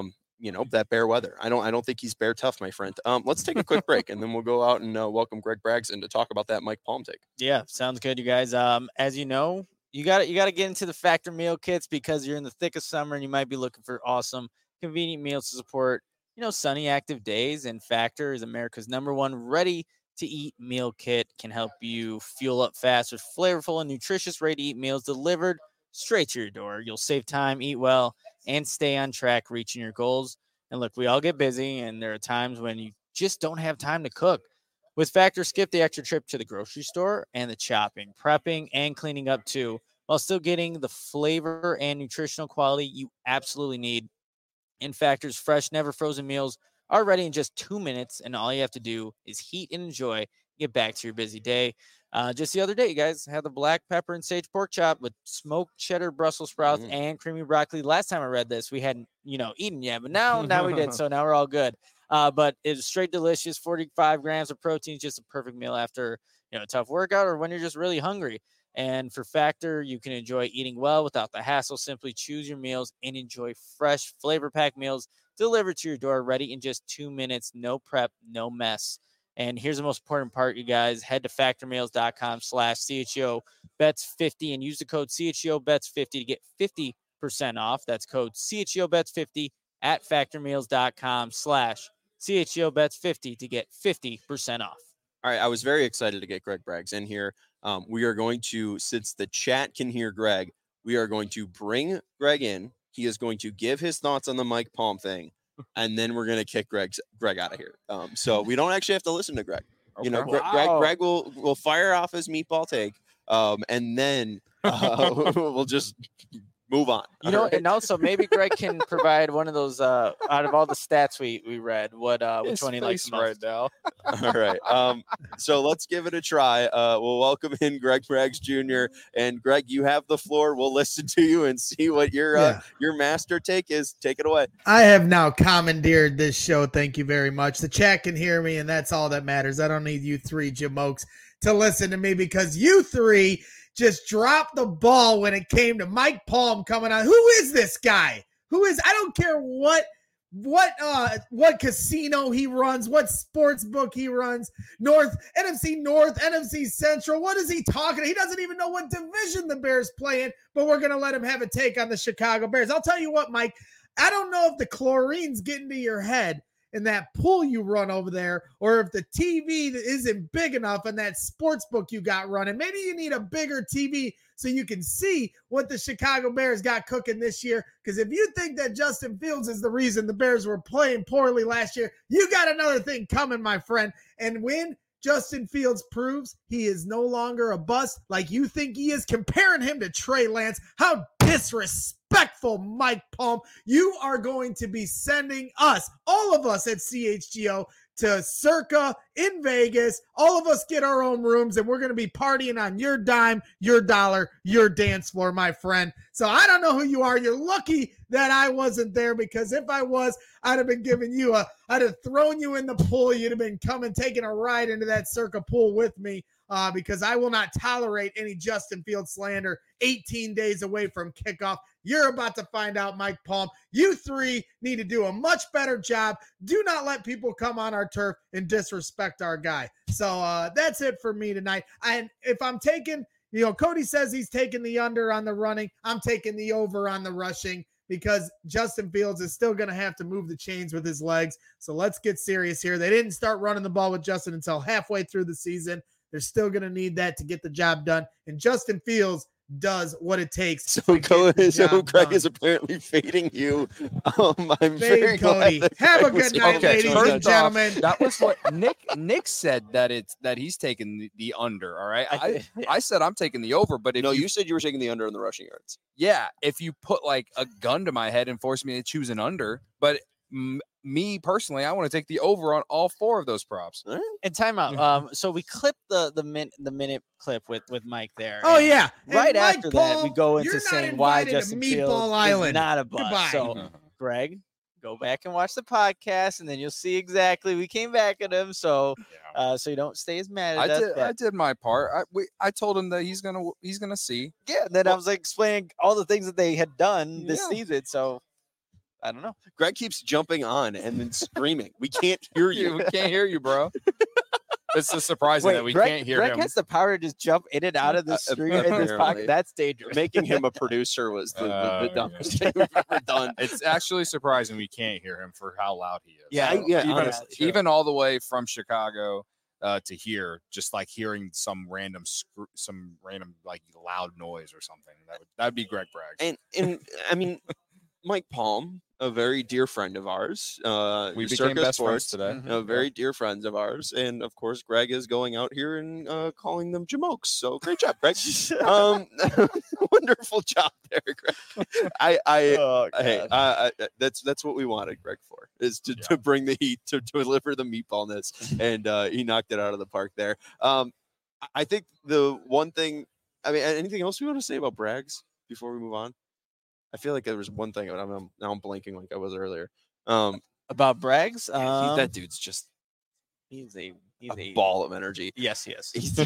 you know, that bear weather. I don't I don't think he's bear tough, my friend. Um, let's take a quick break and then we'll go out and uh, welcome Greg Braggs in to talk about that Mike Palm take. Yeah, sounds good, you guys. Um, as you know, you got you got to get into the Factor meal kits because you're in the thick of summer and you might be looking for awesome, convenient meals to support, you know, sunny, active days. And Factor is America's number one ready to eat meal kit. Can help you fuel up fast with flavorful and nutritious ready to eat meals delivered straight to your door. You'll save time, eat well, and stay on track reaching your goals. And look, we all get busy, and there are times when you just don't have time to cook. With Factor, skip the extra trip to the grocery store and the chopping, prepping, and cleaning up too, while still getting the flavor and nutritional quality you absolutely need. In Factor's fresh, never frozen meals are ready in just two minutes, and all you have to do is heat and enjoy. Get back to your busy day. Uh, just the other day, you guys had the black pepper and sage pork chop with smoked cheddar Brussels sprouts Mm. and creamy broccoli. Last time I read this, we hadn't, you know, eaten yet, but now, now we did. So now we're all good. Uh, but it was straight delicious. forty-five grams of protein, just a perfect meal after, you know, a tough workout or when you're just really hungry. And for Factor, you can enjoy eating well without the hassle. Simply choose your meals and enjoy fresh, flavor-packed meals delivered to your door, ready in just two minutes. No prep, no mess. And here's the most important part, you guys. Head to factormeals.com slash CHGO bets 50 and use the code C H G O bets fifty to get fifty percent off. That's code C H G O bets fifty at factormeals.com slash CHGO bets 50 to get fifty percent off. All right, I was very excited to get Greg Braggs in here. Um, we are going to, since the chat can hear Greg, we are going to bring Greg in. He is going to give his thoughts on the Mike Palm thing, and then we're going to kick Greg's, Greg out of here. Um, so we don't actually have to listen to Greg. You know, Okay. Gre- Greg, Wow. Greg will will fire off his meatball take, um, and then uh, we'll just move on. You know, All right? and also maybe Greg can provide one of those uh, out of all the stats we, we read, what uh, which His one he likes face the most. right now. All right. Um, so let's give it a try. Uh, we'll welcome in Greg Braggs Junior And Greg, you have the floor. We'll listen to you and see what your uh, Yeah. your master take is. Take it away. I have now commandeered this show. Thank you very much. The chat can hear me, and that's all that matters. I don't need you three jamokes to listen to me because you three just dropped the ball when it came to Mike Palm coming on. Who is this guy? Who is? I don't care what what uh what casino he runs, what sports book he runs. North N F C North, N F C Central. What is he talking? He doesn't even know what division the Bears play in. But we're gonna let him have a take on the Chicago Bears. I'll tell you what, Mike. I don't know if the chlorine's getting to your head in that pool you run over there, or if the T V isn't big enough in that sports book you got running. Maybe you need a bigger T V so you can see what the Chicago Bears got cooking this year. Because if you think that Justin Fields is the reason the Bears were playing poorly last year, you got another thing coming, my friend. And when Justin Fields proves he is no longer a bust like you think he is, comparing him to Trey Lance, how disrespectful, Mike Palm. You are going to be sending us, all of us at C H G O, to Circa in Vegas. All of us get our own rooms, and we're going to be partying on your dime, your dollar, your dance floor, my friend. So I don't know who you are. You're lucky that I wasn't there, because if I was, I'd have been giving you a, I'd have thrown you in the pool. You'd have been coming, taking a ride into that Circa pool with me. Uh, because I will not tolerate any Justin Fields slander eighteen days away from kickoff. You're about to find out, Mike Palm. You three need to do a much better job. Do not let people come on our turf and disrespect our guy. So uh, that's it for me tonight. And if I'm taking, you know, Cody says he's taking the under on the running. I'm taking the over on the rushing, because Justin Fields is still going to have to move the chains with his legs. So let's get serious here. They didn't start running the ball with Justin until halfway through the season. They're still going to need that to get the job done. And Justin Fields does what it takes. So, to Co- get the so job Greg done. is apparently fading you. Um, I'm Fade very Cody. glad that Have a Greg was good night, able to ladies join first and us. off, gentlemen. That was what Nick Nick said, that it's that he's taking the, the under. All right. I, I said I'm taking the over, but if No, you, you said you were taking the under in the rushing yards. yeah, if you put like a gun to my head and force me to choose an under, but m- me personally, I want to take the over on all four of those props. All right. And timeout. Um, so we clipped the the min the minute clip with with Mike there. Oh, and yeah. And Right Mike after that, we Paul, go into you're not saying why invited to Justin Meatball Fields Island. is not a bust. Goodbye. So, Greg, go back and watch the podcast, and then you'll see exactly. We came back at him, so uh, so you don't stay as mad at I us. did. but- I did my part. I we, I told him that he's gonna he's gonna see. yeah. And then I Well- was like explaining all the things that they had done this Yeah. season. So I don't know. Greg keeps jumping on and then screaming. We can't hear you. We can't hear you, bro. It's just surprising Wait, that we Greg, can't hear Greg him. has the power to just jump in and out of the Uh, screen in this apparently. pocket. That's dangerous. Making him a producer was the, the, the Oh, dumbest thing we've ever done. It's actually surprising we can't hear him for how loud he is. Yeah, I- yeah, even, honestly, sure. even all the way from Chicago uh, to here, just like hearing some random, screw, some random like loud noise or something. That would that'd be Greg Bragg. And and I mean, Mike Palm, a very dear friend of ours. Uh, We became Circa best friends Sports, today. Mhm. uh, very dear friends of ours, and of course, Greg is going out here and uh, calling them jamokes. So great job, Greg. um, wonderful job there, Greg. I, I, Oh, hey, God. I, I, that's that's what we wanted Greg for, is to, Yeah. to bring the heat, to, to deliver the meatballness, and uh, he knocked it out of the park there. Um, I- I think the one thing, I mean, anything else we want to say about Braggs before we move on? I feel like there was one thing, but I'm, I'm now I'm blanking like I was earlier. Um, About Braggs, yeah, he- um, that dude's just he's a he's a a ball of energy. Yes, yes. He's-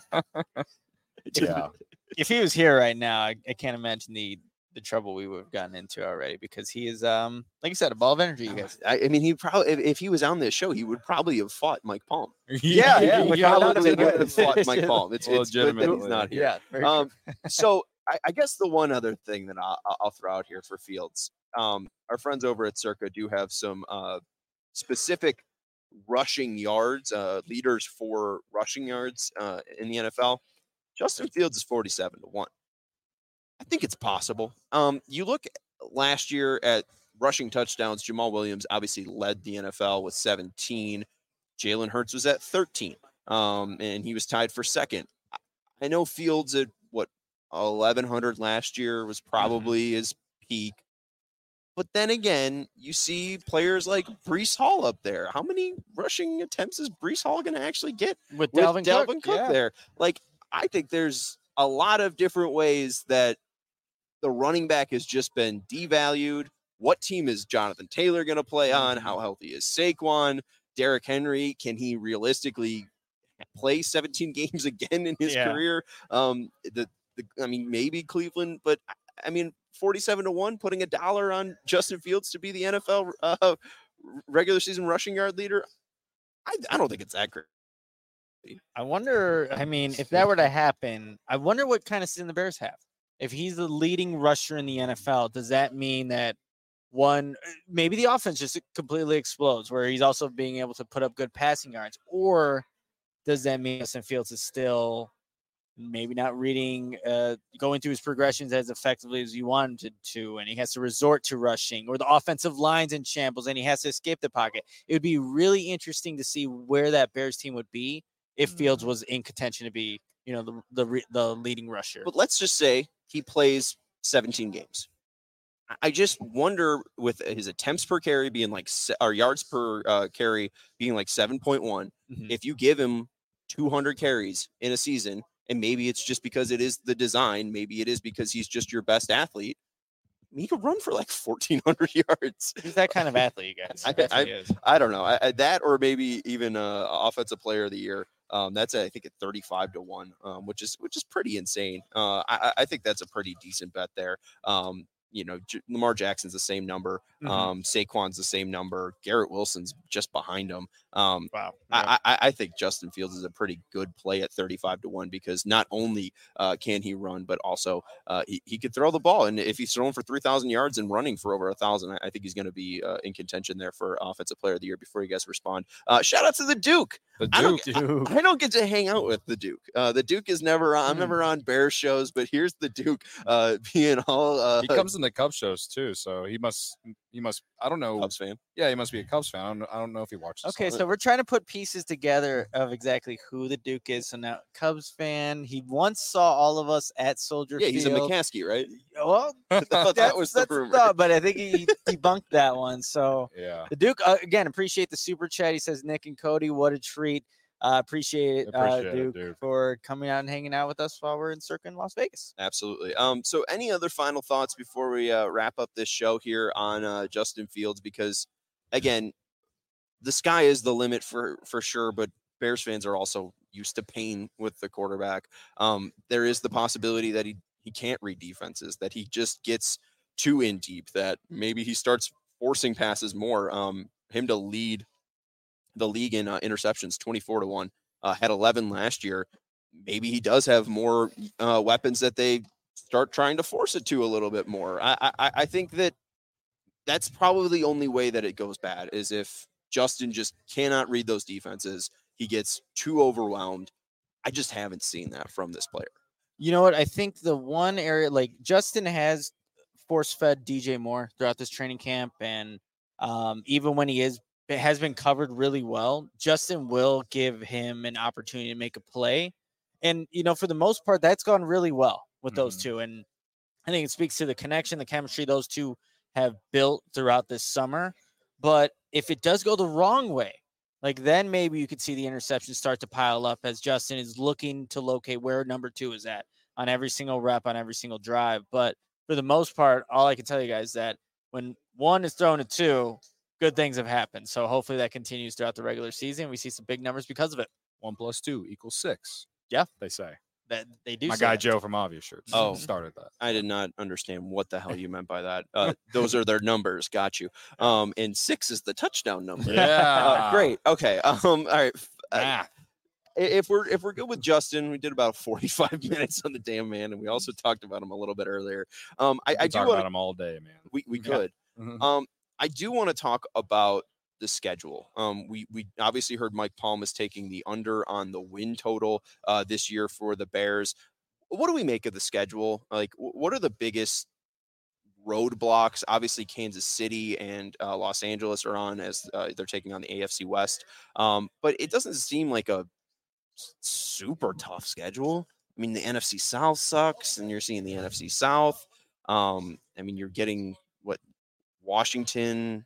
Yeah. If he was here right now, I, I can't imagine the the trouble we would have gotten into already because he is, um, like you said, a ball of energy. You guys. I, I mean, he probably if, if he was on this show, he would probably have fought Mike Palm. Yeah, he yeah, would without probably a doubt. would have fought Mike Palm. It's, it's good that he's Legitimately. not here. Yeah, very Um, so I, I guess the one other thing that I'll, I'll throw out here for Fields, um, our friends over at Circa do have some uh, specific rushing yards, uh, leaders for rushing yards uh, in the N F L. Justin Fields is forty-seven to one. I think it's possible. Um, you look last year at rushing touchdowns. Jamal Williams obviously led the N F L with seventeen. Jalen Hurts was at thirteen, um, and he was tied for second. I know Fields at what eleven hundred last year was probably his peak. But then again, you see players like Brees Hall up there. How many rushing attempts is Brees Hall going to actually get with with Dalvin, Dalvin Cook, yeah. there? Like, I think there's a lot of different ways that the running back has just been devalued. What team is Jonathan Taylor going to play on? How healthy is Saquon? Derrick Henry, can he realistically play seventeen games again in his Yeah. career? Um, the, the I mean, maybe Cleveland, but I mean, forty-seven to one, putting a dollar on Justin Fields to be the N F L uh, regular season rushing yard leader. I, I don't think it's that great. I wonder. I mean, if that were to happen, I wonder what kind of season the Bears have. If he's the leading rusher in the N F L, does that mean that one, maybe the offense just completely explodes, where he's also being able to put up good passing yards, or does that mean Justin Fields is still maybe not reading, uh, going through his progressions as effectively as you wanted to, and he has to resort to rushing, or the offensive line's in shambles and he has to escape the pocket? It would be really interesting to see where that Bears team would be if Fields was in contention to be, you know, the the, re- the leading rusher. But let's just say he plays seventeen games. I- I just wonder, with his attempts per carry being like, se- or yards per uh, carry being like seven point one, Mhm. if you give him two hundred carries in a season, and maybe it's just because it is the design, maybe it is because he's just your best athlete, he could run for like fourteen hundred yards. He's that kind of athlete, you guys. I- That's what I- he is. I don't know. I, I, that or maybe even uh, offensive player of the year. Um, that's I think at thirty-five to one, um, which is which is pretty insane. Uh, I, I think that's a pretty decent bet there. Um, you know, J- Lamar Jackson's the same number. Mhm. Um, Saquon's the same number. Garrett Wilson's just behind him. Um, Wow. I, I, I think Justin Fields is a pretty good play at thirty-five to one, because not only uh, can he run, but also uh, he, he could throw the ball. And if he's throwing for three thousand yards and running for over a thousand, I, I think he's going to be uh, in contention there for offensive player of the year. Before you guys respond, uh, shout out to the Duke. The I don't, Duke. Duke. I, I don't get to hang out with the Duke. Uh, the Duke is never on. I'm Hmm. never on Bears shows, but here's the Duke uh, being all uh, He comes in the Cubs shows too, so he must. He must. I don't know. Cubs fan. Yeah, he must be a Cubs fan. I don't. know- I don't know if he watches. Okay, some. so we're trying to put pieces together of exactly who the Duke is. So now, Cubs fan. He once saw all of us at Soldier Yeah, he's a Field. McCaskey, right? Well, I thought that's, that was the that's rumor. thought, but I think he debunked that one. So yeah. the Duke, uh, again, appreciate the super chat. He says, Nick and Cody, what a treat. Uh, appreciate it, uh, Appreciate it, Duke, Duke. for coming out and hanging out with us while we're in Circa in Las Vegas. Absolutely. Um, so any other final thoughts before we uh, wrap up this show here on uh, Justin Fields? Because again, the sky is the limit for for sure, but Bears fans are also used to pain with the quarterback. Um, there is the possibility that he he can't read defenses, that he just gets too in deep, that maybe he starts forcing passes more. Um, him to lead the league in uh, interceptions, twenty-four to one. Uh, had eleven last year. Maybe he does have more uh, weapons that they start trying to force it to a little bit more. I, I I think that that's probably the only way that it goes bad is if Justin just cannot read those defenses. He gets too overwhelmed. I just haven't seen that from this player. You know what? I think the one area, like Justin has force fed D J Moore throughout this training camp, and um, even when he is it has been covered really well, Justin will give him an opportunity to make a play, and you know for the most part that's gone really well with those Mhm. two, and I think it speaks to the connection, the chemistry those two have built throughout this summer. But if it does go the wrong way, like then maybe you could see the interceptions start to pile up as Justin is looking to locate where number two is at on every single rep, on every single drive. But for the most part, all I can tell you guys is that when one is thrown to two, good things have happened. So hopefully that continues throughout the regular season. We see some big numbers because of it. One plus two equals six. Yeah. They say. That they do. My say guy that. Joe from Obvious Shirts Oh. started that. I did not understand what the hell you meant by that. Uh, those are their numbers. Got you. Um, and six is the touchdown number. Yeah. Uh, great. Okay. Um, all right. Uh, Math. if we're if we're good with Justin, we did about forty-five minutes on the damn man, and we also talked about him a little bit earlier. Um, I, We I could do talk want about him all day, man. we we Yeah. could. Mhm. Um, I do want to talk about the schedule. Um, we we obviously heard Mike Palm is taking the under on the win total uh, this year for the Bears. What do we make of the schedule? Like, wh- what are the biggest roadblocks? Obviously, Kansas City and uh, Los Angeles are on as uh, they're taking on the A F C West. Um, but it doesn't seem like a s- super tough schedule. I mean, the N F C South sucks, and you're seeing the N F C South. Um, I mean, you're getting what Washington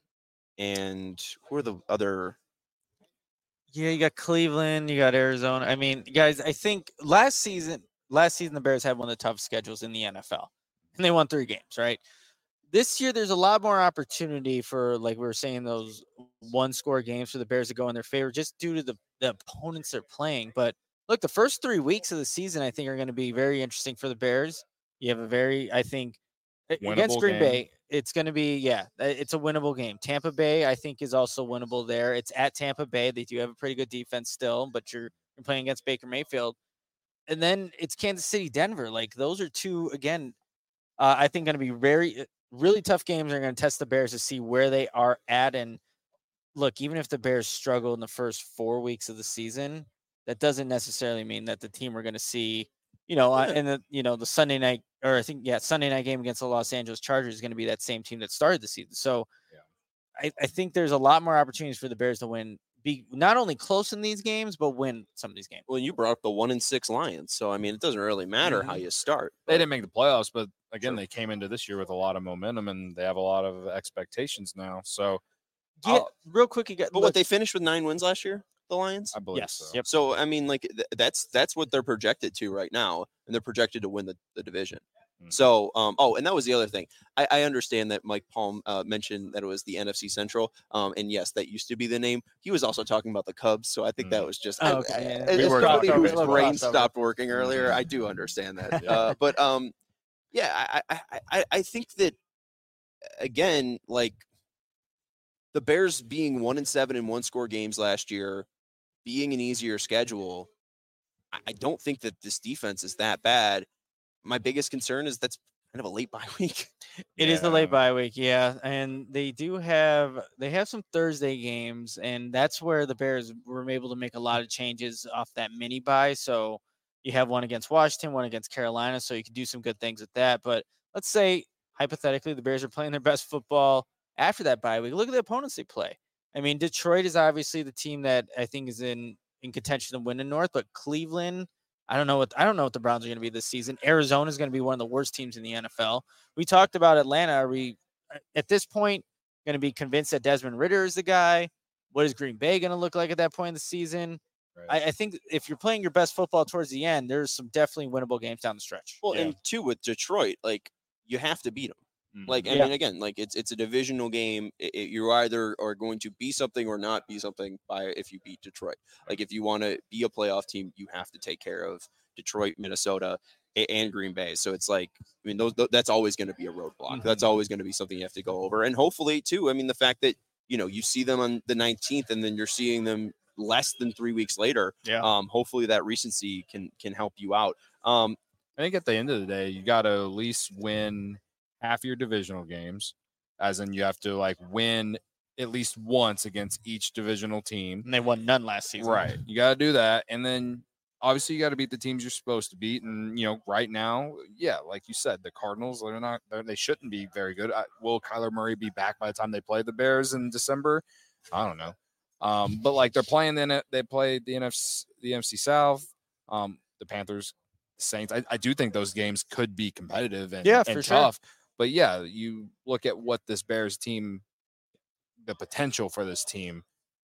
and who are the other? Yeah, you got Cleveland, you got Arizona. I mean, guys, I think last season, last season the Bears had one of the toughest schedules in the N F L, and they won three games. Right. This year, there's a lot more opportunity for, like we were saying, those one-score games for the Bears to go in their favor, just due to the the opponents they're playing. But look, the first three weeks of the season, I think, are going to be very interesting for the Bears. You have a very, I think, a- against Winnable Green game. Bay, it's going to be, yeah, uh, it's a winnable game. Tampa Bay, I think, is also winnable there. It's at Tampa Bay. They do have a pretty good defense still, but you're, you're playing against Baker Mayfield. And then it's Kansas City, Denver. Like, those are two, again, uh, I think going to be very, uh, really tough games. Are going to test the Bears to see where they are at. And look, even if the Bears struggle in the first four weeks of the season, that doesn't necessarily mean that the team we're going to see, you know, uh, Yeah. in the, you know, the Sunday night, or I think, yeah, Sunday night game against the Los Angeles Chargers is going to be that same team that started the season. So Yeah. I, I think there's a lot more opportunities for the Bears to win, be not only close in these games, but win some of these games. Well, you brought up the one and six Lions, so I mean, it doesn't really matter how Mhm. you start. They but- didn't make the playoffs, but again, Sure. they came into this year with a lot of momentum and they have a lot of expectations now. So Yeah, I'll- real quick, you got, But look, what they finished with nine wins last year, the Lions. I believe yes, so. yep. So I mean, like th- that's that's what they're projected to right now, and they're projected to win the, the division. Mhm. So, um, oh, and that was the other thing. I, I understand that Mike Palm uh, mentioned that it was the N F C Central, um, and yes, that used to be the name. He was also talking about the Cubs, so I think that Mm. was just Oh, I- okay, I- yeah. as We were somebody talking whose baseball. brain Crossover. stopped working earlier. I Mhm. do understand that, Yeah. uh, but um, yeah, I, I, I- I, I think that again, like the Bears being one and seven in one score games last year, being an easier schedule, I, I don't think that this defense is that bad. My biggest concern is that's kind of a late bye week. It is the late Yeah. bye week, yeah, and they do have they have some Thursday games, and that's where the Bears were able to make a lot of changes off that mini bye. So you have one against Washington, one against Carolina, so you can do some good things with that. But let's say hypothetically the Bears are playing their best football after that bye week. Look at the opponents they play. I mean, Detroit is obviously the team that I think is in in contention to win the North, but Cleveland. I don't know what I don't know what the Browns are going to be this season. Arizona is going to be one of the worst teams in the N F L. We talked about Atlanta. Are we uh, at this point going to be convinced that Desmond Ritter is the guy? What is Green Bay going to look like at that point in the season? Right. I, I think if you're playing your best football towards the end, there's some definitely winnable games down the stretch. Well, Yeah. and two with Detroit, like you have to beat them. Mhm. Like, I Yeah. mean, again, like it's it's a divisional game. It, it- you either are going to be something or not be something by if you beat Detroit. Like, if you want to be a playoff team, you have to take care of Detroit, Minnesota. a- and Green Bay. So it's like, I mean, those, th- that's always going to be a roadblock. Mhm. That's always going to be something you have to go over. And hopefully, too, I mean, the fact that, you know, you see them on the nineteenth and then you're seeing them less than three weeks later. Yeah. Um, hopefully that recency can can help you out. Um, I think at the end of the day, you got to at least win half your divisional games, as in you have to like win at least once against each divisional team. And they won none last season. Right. You got to do that. And then obviously you got to beat the teams you're supposed to beat. And, you know, right now, yeah, like you said, the Cardinals, they're not, they're, they shouldn't be very good. I, will Kyler Murray be back by the time they play the Bears in December? I don't know. Um, but like they're playing the, they played the N F C, the N F C South, um, the Panthers, Saints. I, I do think those games could be competitive and, Yeah, and for sure. tough. But yeah, you look at what this Bears team, the potential for this team,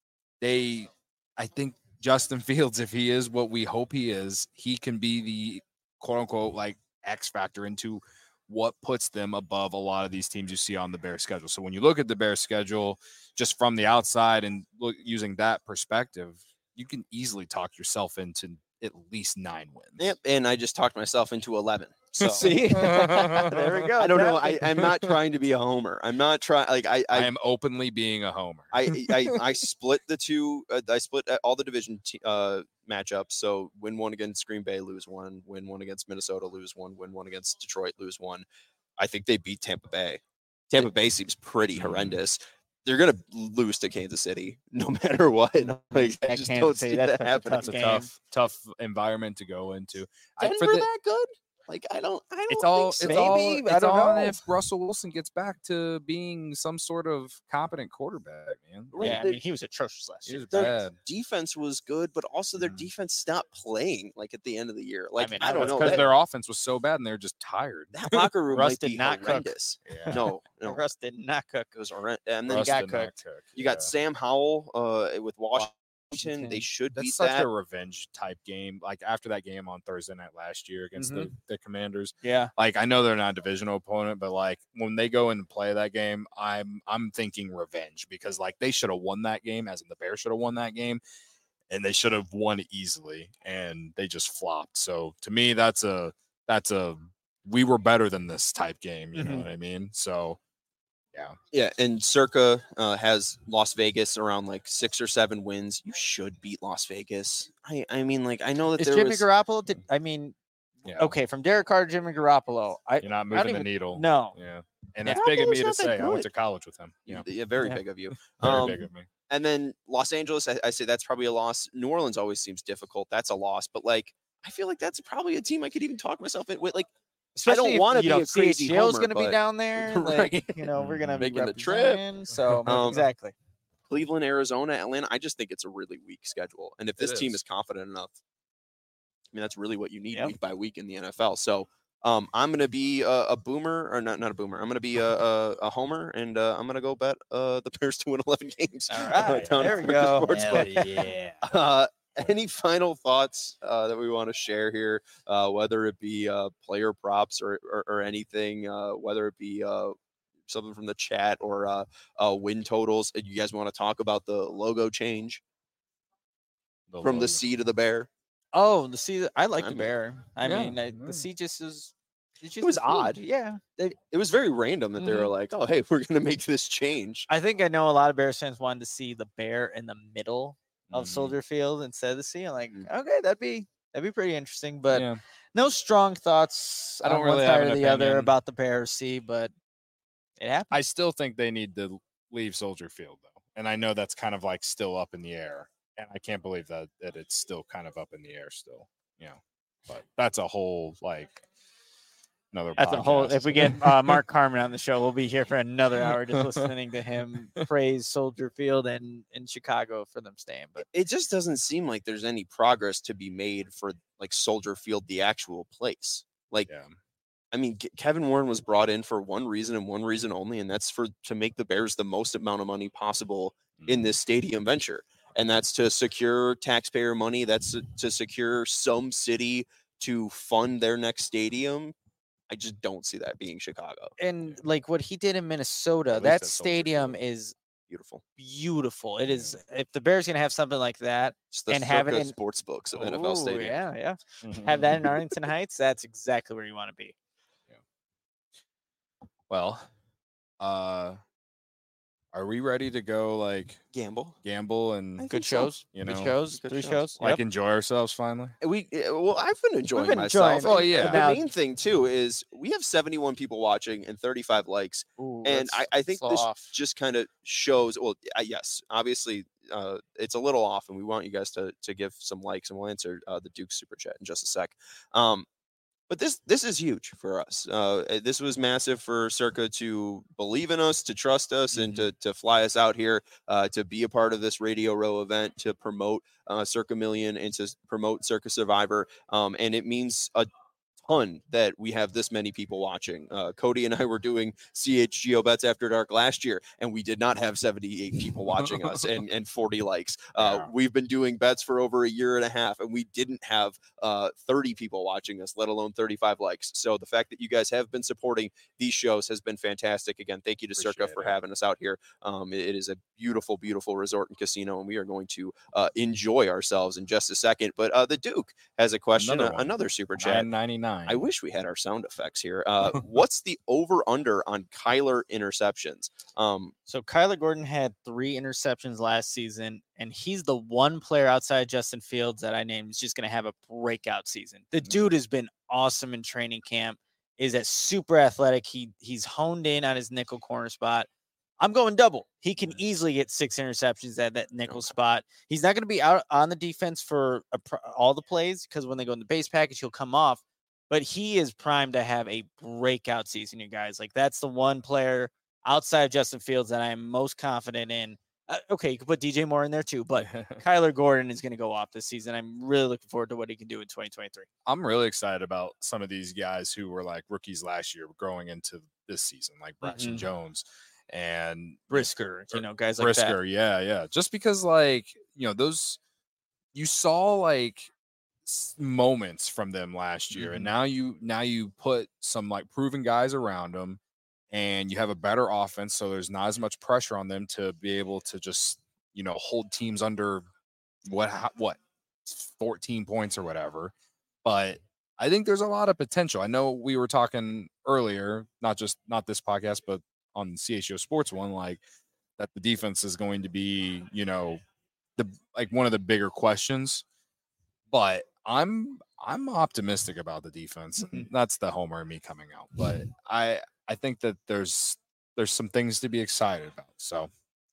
they, I think Justin Fields, if he is what we hope he is, he can be the quote unquote like X factor into what puts them above a lot of these teams you see on the Bears schedule. So when you look at the Bears schedule just from the outside and look using that perspective, you can easily talk yourself into at least nine wins. Yep, and I just talked myself into eleven. So See, there we go. I don't know. I, I'm not trying to be a homer. I'm not trying. Like I, I I, am openly being a homer. I, I, I split the two. Uh, I split uh, all the division t- uh, matchups. So win one against Green Bay, lose one. Win one against Minnesota, lose one. Win one against Detroit, lose one. I think they beat Tampa Bay. Tampa Bay seems pretty horrendous. They're gonna lose to Kansas City no matter what. Like, I At just Kansas don't City, see that's that a happening. tough It's a game. tough, tough environment to go into. I, Denver for the, that good? Like I don't. I don't it's all think it's so. all Maybe, I it's don't all know. if Russell Wilson gets back to being some sort of competent quarterback, man. Right, Yeah, I they- mean, he was atrocious last He year. was Their bad. defense was good, but also their Mhm. defense stopped playing like at the end of the year. Like I, mean, don't know. because That, their offense was so bad and they're just tired. that locker room Russ might did be not cook. horrendous. Yeah. No, no, Russ did not cook. it was horrendous. And then Russ got did not cooked. cook, you got yeah. Sam Howell uh, with Washington. Washington. They should That's beat such that. a revenge type game. Like after that game on Thursday night last year against the, the Commanders. Yeah. Like I know they're not a divisional opponent, but like when they go in and play that game, I'm I'm thinking revenge because like they should have won that game, as in the Bears should have won that game, and they should have won easily, and they just flopped. So to me, that's a that's a we were better than this type game. You know Mhm. what I mean? So yeah. Yeah, and Circa uh, has Las Vegas around like six or seven wins. You should beat Las Vegas. I, I mean, like I know that Is there Jimmy was. Garoppolo? Did I mean? Yeah. Okay, from Derek Carr to Jimmy Garoppolo. I You're not I don't moving the even- needle. no. Yeah. And Yeah. that's big of me to Garoppolo's not that say. I went good. to college with him. Yeah. Yeah, very Yeah. big of you. Very Um, big of me. And then Los Angeles, I, I say that's probably a loss. New Orleans always seems difficult. That's a loss. But like, I feel like that's probably a team I could even talk myself in with. Like, Especially if, wanna you be know, a crazy C H L's homer, going to be but- down there. Like, Right. you know, we're going to be Making the trip. representing, So Um, exactly. Cleveland, Arizona, Atlanta. I just think it's a really weak schedule. And if this It team is. is confident enough, I mean, that's really what you need Yep. week by week in the N F L. So um, I'm going to be a, a boomer, or not, not a boomer. I'm going to be a, a, a homer, and uh, I'm going to go bet uh, the Bears to win eleven games. All uh, right. down There at we Circa go. Sportsbook. yeah. Uh, any final thoughts uh, that we want to share here, uh, whether it be uh, player props or, or, or anything, uh, whether it be uh, something from the chat or uh, uh, win totals? And you guys want to talk about the logo change The from logo. the C to the bear? Oh, the sea. I like I the mean, bear. I yeah, mean, I, yeah. the sea just is. It's just was a theme. odd. Yeah. It, it was very random that they were Mhm. like, "Oh, hey, we're going to make this change." I think I know a lot of Bears fans wanted to see the bear in the middle of Mhm. Soldier Field instead of the sea. I'm like, Mm. okay, that'd be that'd be pretty interesting. But Yeah. no strong thoughts. I don't on really one have side an or the other opinion. about the Bears sea, but it happened. I still think they need to leave Soldier Field though. And I know that's kind of like still up in the air. And I can't believe that that it's still kind of up in the air still. You know. But that's a whole like another That's a whole. podcast. If we get uh, Mark Carmen on the show, we'll be here for another hour just listening to him praise Soldier Field and in Chicago for them staying. But It just doesn't seem like there's any progress to be made for like Soldier Field, the actual place. Like, Yeah. I mean, Ke- Kevin Warren was brought in for one reason and one reason only, and that's for to make the Bears the most amount of money possible in this stadium venture, and that's to secure taxpayer money. That's to, to secure some city to fund their next stadium. I just don't see that being Chicago. and like what he did in Minnesota, At least that at Soldier stadium Field. is Beautiful. beautiful. It is. If the Bears gonna have something like that, It's the and have it Circa in sports books of N F L Ooh, Stadium. yeah, yeah, have that in Arlington Heights, that's exactly where you want to be. Well, uh, are we ready to go? Like Gamble. gamble I and think Good so. shows, you good know, shows, good three shows. shows. like Yep. enjoy ourselves finally? We uh, well, I've been enjoying been myself. enjoying- Oh, yeah. The Now- main thing too is we have seventy-one people watching and thirty-five likes, Ooh, and I, that's- I think that's this off. just kind of shows. Well, uh, yes, obviously, uh, it's a little off, and we want you guys to to give some likes, and we'll answer uh, the Duke super chat in just a sec. Um, But this this is huge for us. Uh, this was massive for Circa to believe in us, to trust us, and to to fly us out here uh, to be a part of this Radio Row event, to promote uh, Circa Million and to promote Circa Survivor. Um, and it means a ton that we have this many people watching. Uh, Cody and I were doing C H G O Bets After Dark last year, and we did not have seventy-eight people watching us and, and forty likes. Uh, Yeah. We've been doing bets for over a year and a half, and we didn't have uh, thirty people watching us, let alone thirty-five likes. So the fact that you guys have been supporting these shows has been fantastic. Again, thank you to Circa Appreciate for it. having us out here. Um, it- it is a beautiful, beautiful resort and casino, and we are going to uh, enjoy ourselves in just a second. But uh, the Duke has a question, Another uh, one. another super chat. nine ninety-nine. I wish we had our sound effects here. Uh, what's the over under on Kyler interceptions? Um, So Kyler Gordon had three interceptions last season, and he's the one player outside Justin Fields that I named is just going to have a breakout season. The dude has been awesome in training camp. Is that super athletic? He he's honed in on his nickel corner spot. I'm going double. He can easily get six interceptions at that nickel spot. He's not going to be out on the defense for a, pr- all the plays because when they go in the base package, he'll come off. But he is primed to have a breakout season, you guys. Like that's the one player outside of Justin Fields that I am most confident in. Uh, okay, you can put D J Moore in there too, but Kyler Gordon is going to go off this season. I'm really looking forward to what he can do in twenty twenty-three. I'm really excited about some of these guys who were like rookies last year growing into this season, like Braxton Mhm. Jones and Brisker, you know, guys like Brisker. Yeah, yeah. Just because, like, you know, those you saw like s- moments from them last year, and Mhm. now you now you put some like proven guys around them, and you have a better offense, so there's not as much pressure on them to be able to just you know hold teams under what ho- what fourteen points or whatever. But I think there's a lot of potential. I know we were talking earlier, not just not this podcast, but on C H O Sports one, like that the defense is going to be, you know, the like one of the bigger questions. But I'm I'm optimistic about the defense. Mhm. That's the homer in me coming out. But I I think that there's there's some things to be excited about. So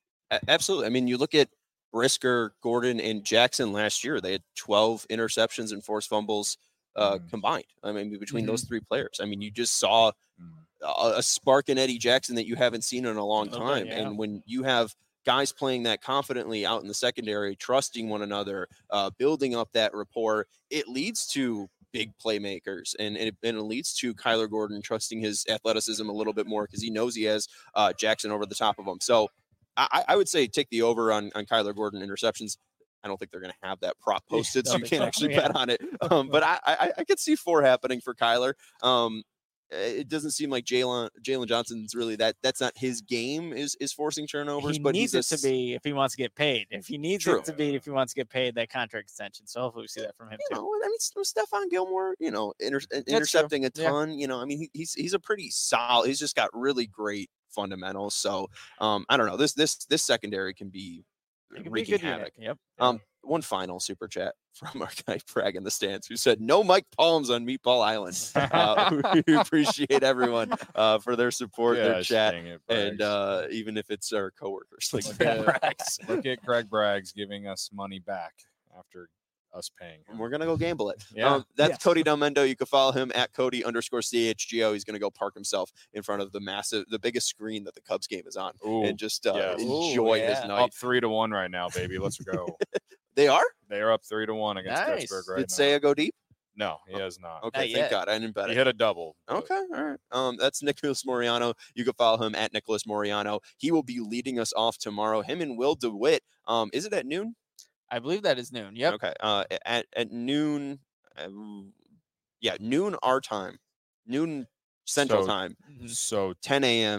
a- absolutely. I mean, you look at Brisker, Gordon, and Jackson last year. They had twelve interceptions and forced fumbles uh, Mhm. combined. I mean, between those Mm-hmm. three players. I mean, you just saw mm, a, a spark in Eddie Jackson that you haven't seen in a long little bit, time. yeah. And when you have guys playing that confidently out in the secondary, trusting one another, uh, building up that rapport, it leads to big playmakers, and, and, it, and it leads to Kyler Gordon trusting his athleticism a little bit more because he knows he has uh, Jackson over the top of him. So I, I would say take the over on, on Kyler Gordon interceptions. I don't think they're going to have that prop Yeah, posted, so don't you think can't so. actually Yeah. bet on it. Um, but I, I, I could see four happening for Kyler. Um, it doesn't seem like Jalen Jalen Johnson's really that. That's not his game. Is is forcing turnovers, He but needs he's it a to be if he wants to get paid. If he needs True. it to be if he wants to get paid that contract extension. So hopefully we see that from him You too. know, I mean, S- Stephon Gilmore, you know, inter- true. intercepting a Yeah. ton. You know, I mean, he, he's he's a pretty solid. He's just got really great fundamentals. So, um, I don't know. This this this secondary can be It could be a wreaking good unit. havoc. Yep. Um, one final super chat from our guy Bragg in the stands who said, "No Mike Palms on Meatball Island." Uh, we appreciate everyone uh, for their support, their gosh, chat, dang it, and Braggs. uh, even if it's our coworkers like Look Bragg at- Braggs. look at Craig Braggs giving us money back after us paying him. We're gonna go gamble it. Yeah. Um, that's Yes. Cody Delmendo. You can follow him at Cody underscore C H G O. He's gonna go park himself in front of the massive, the biggest screen that the Cubs game is on, Ooh, and just uh, yes. enjoy Ooh, his yeah. night. up three to one right now, baby. Let's go. They are. They are up three to one against Nice. Pittsburgh right Did now. Saya go deep? No, he has not. Okay, Not thank yet. God. I didn't bet He it. hit a double. but Okay, all right. Um, that's Nicholas Moriano. You can follow him at Nicholas Moriano. He will be leading us off tomorrow. Him and Will DeWitt. Um, is it at noon? I believe that is noon. Yep. Okay. Uh, at at noon. Um, yeah, noon our time, noon Central So- time, Mhm. So ten a.m.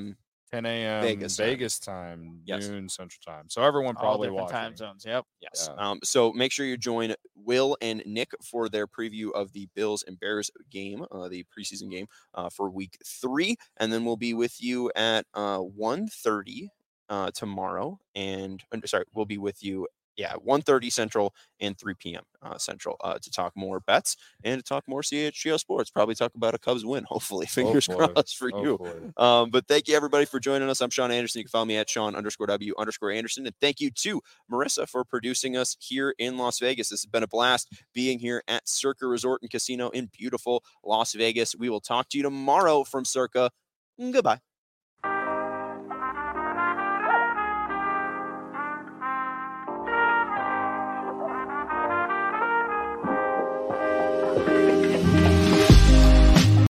ten a.m. Vegas Vegas, time. time, Yes. noon Central Time. So everyone All probably different watching. time zones. Yep. Yes. Yeah. Um, so make sure you join Will and Nick for their preview of the Bills and Bears game, uh, the preseason game uh, for week three. And then we'll be with you at uh, one thirty uh, tomorrow. And uh, sorry, we'll be with you, yeah, one thirty Central and three p.m. Uh, Central uh, to talk more bets and to talk more C H G O sports. Probably talk about a Cubs win, hopefully. Fingers Hopefully. crossed for you. Hopefully. Um, but thank you, everybody, for joining us. I'm Sean Anderson. You can follow me at Sean underscore W underscore Anderson. And thank you to Marissa for producing us here in Las Vegas. This has been a blast being here at Circa Resort and Casino in beautiful Las Vegas. We will talk to you tomorrow from Circa. Goodbye.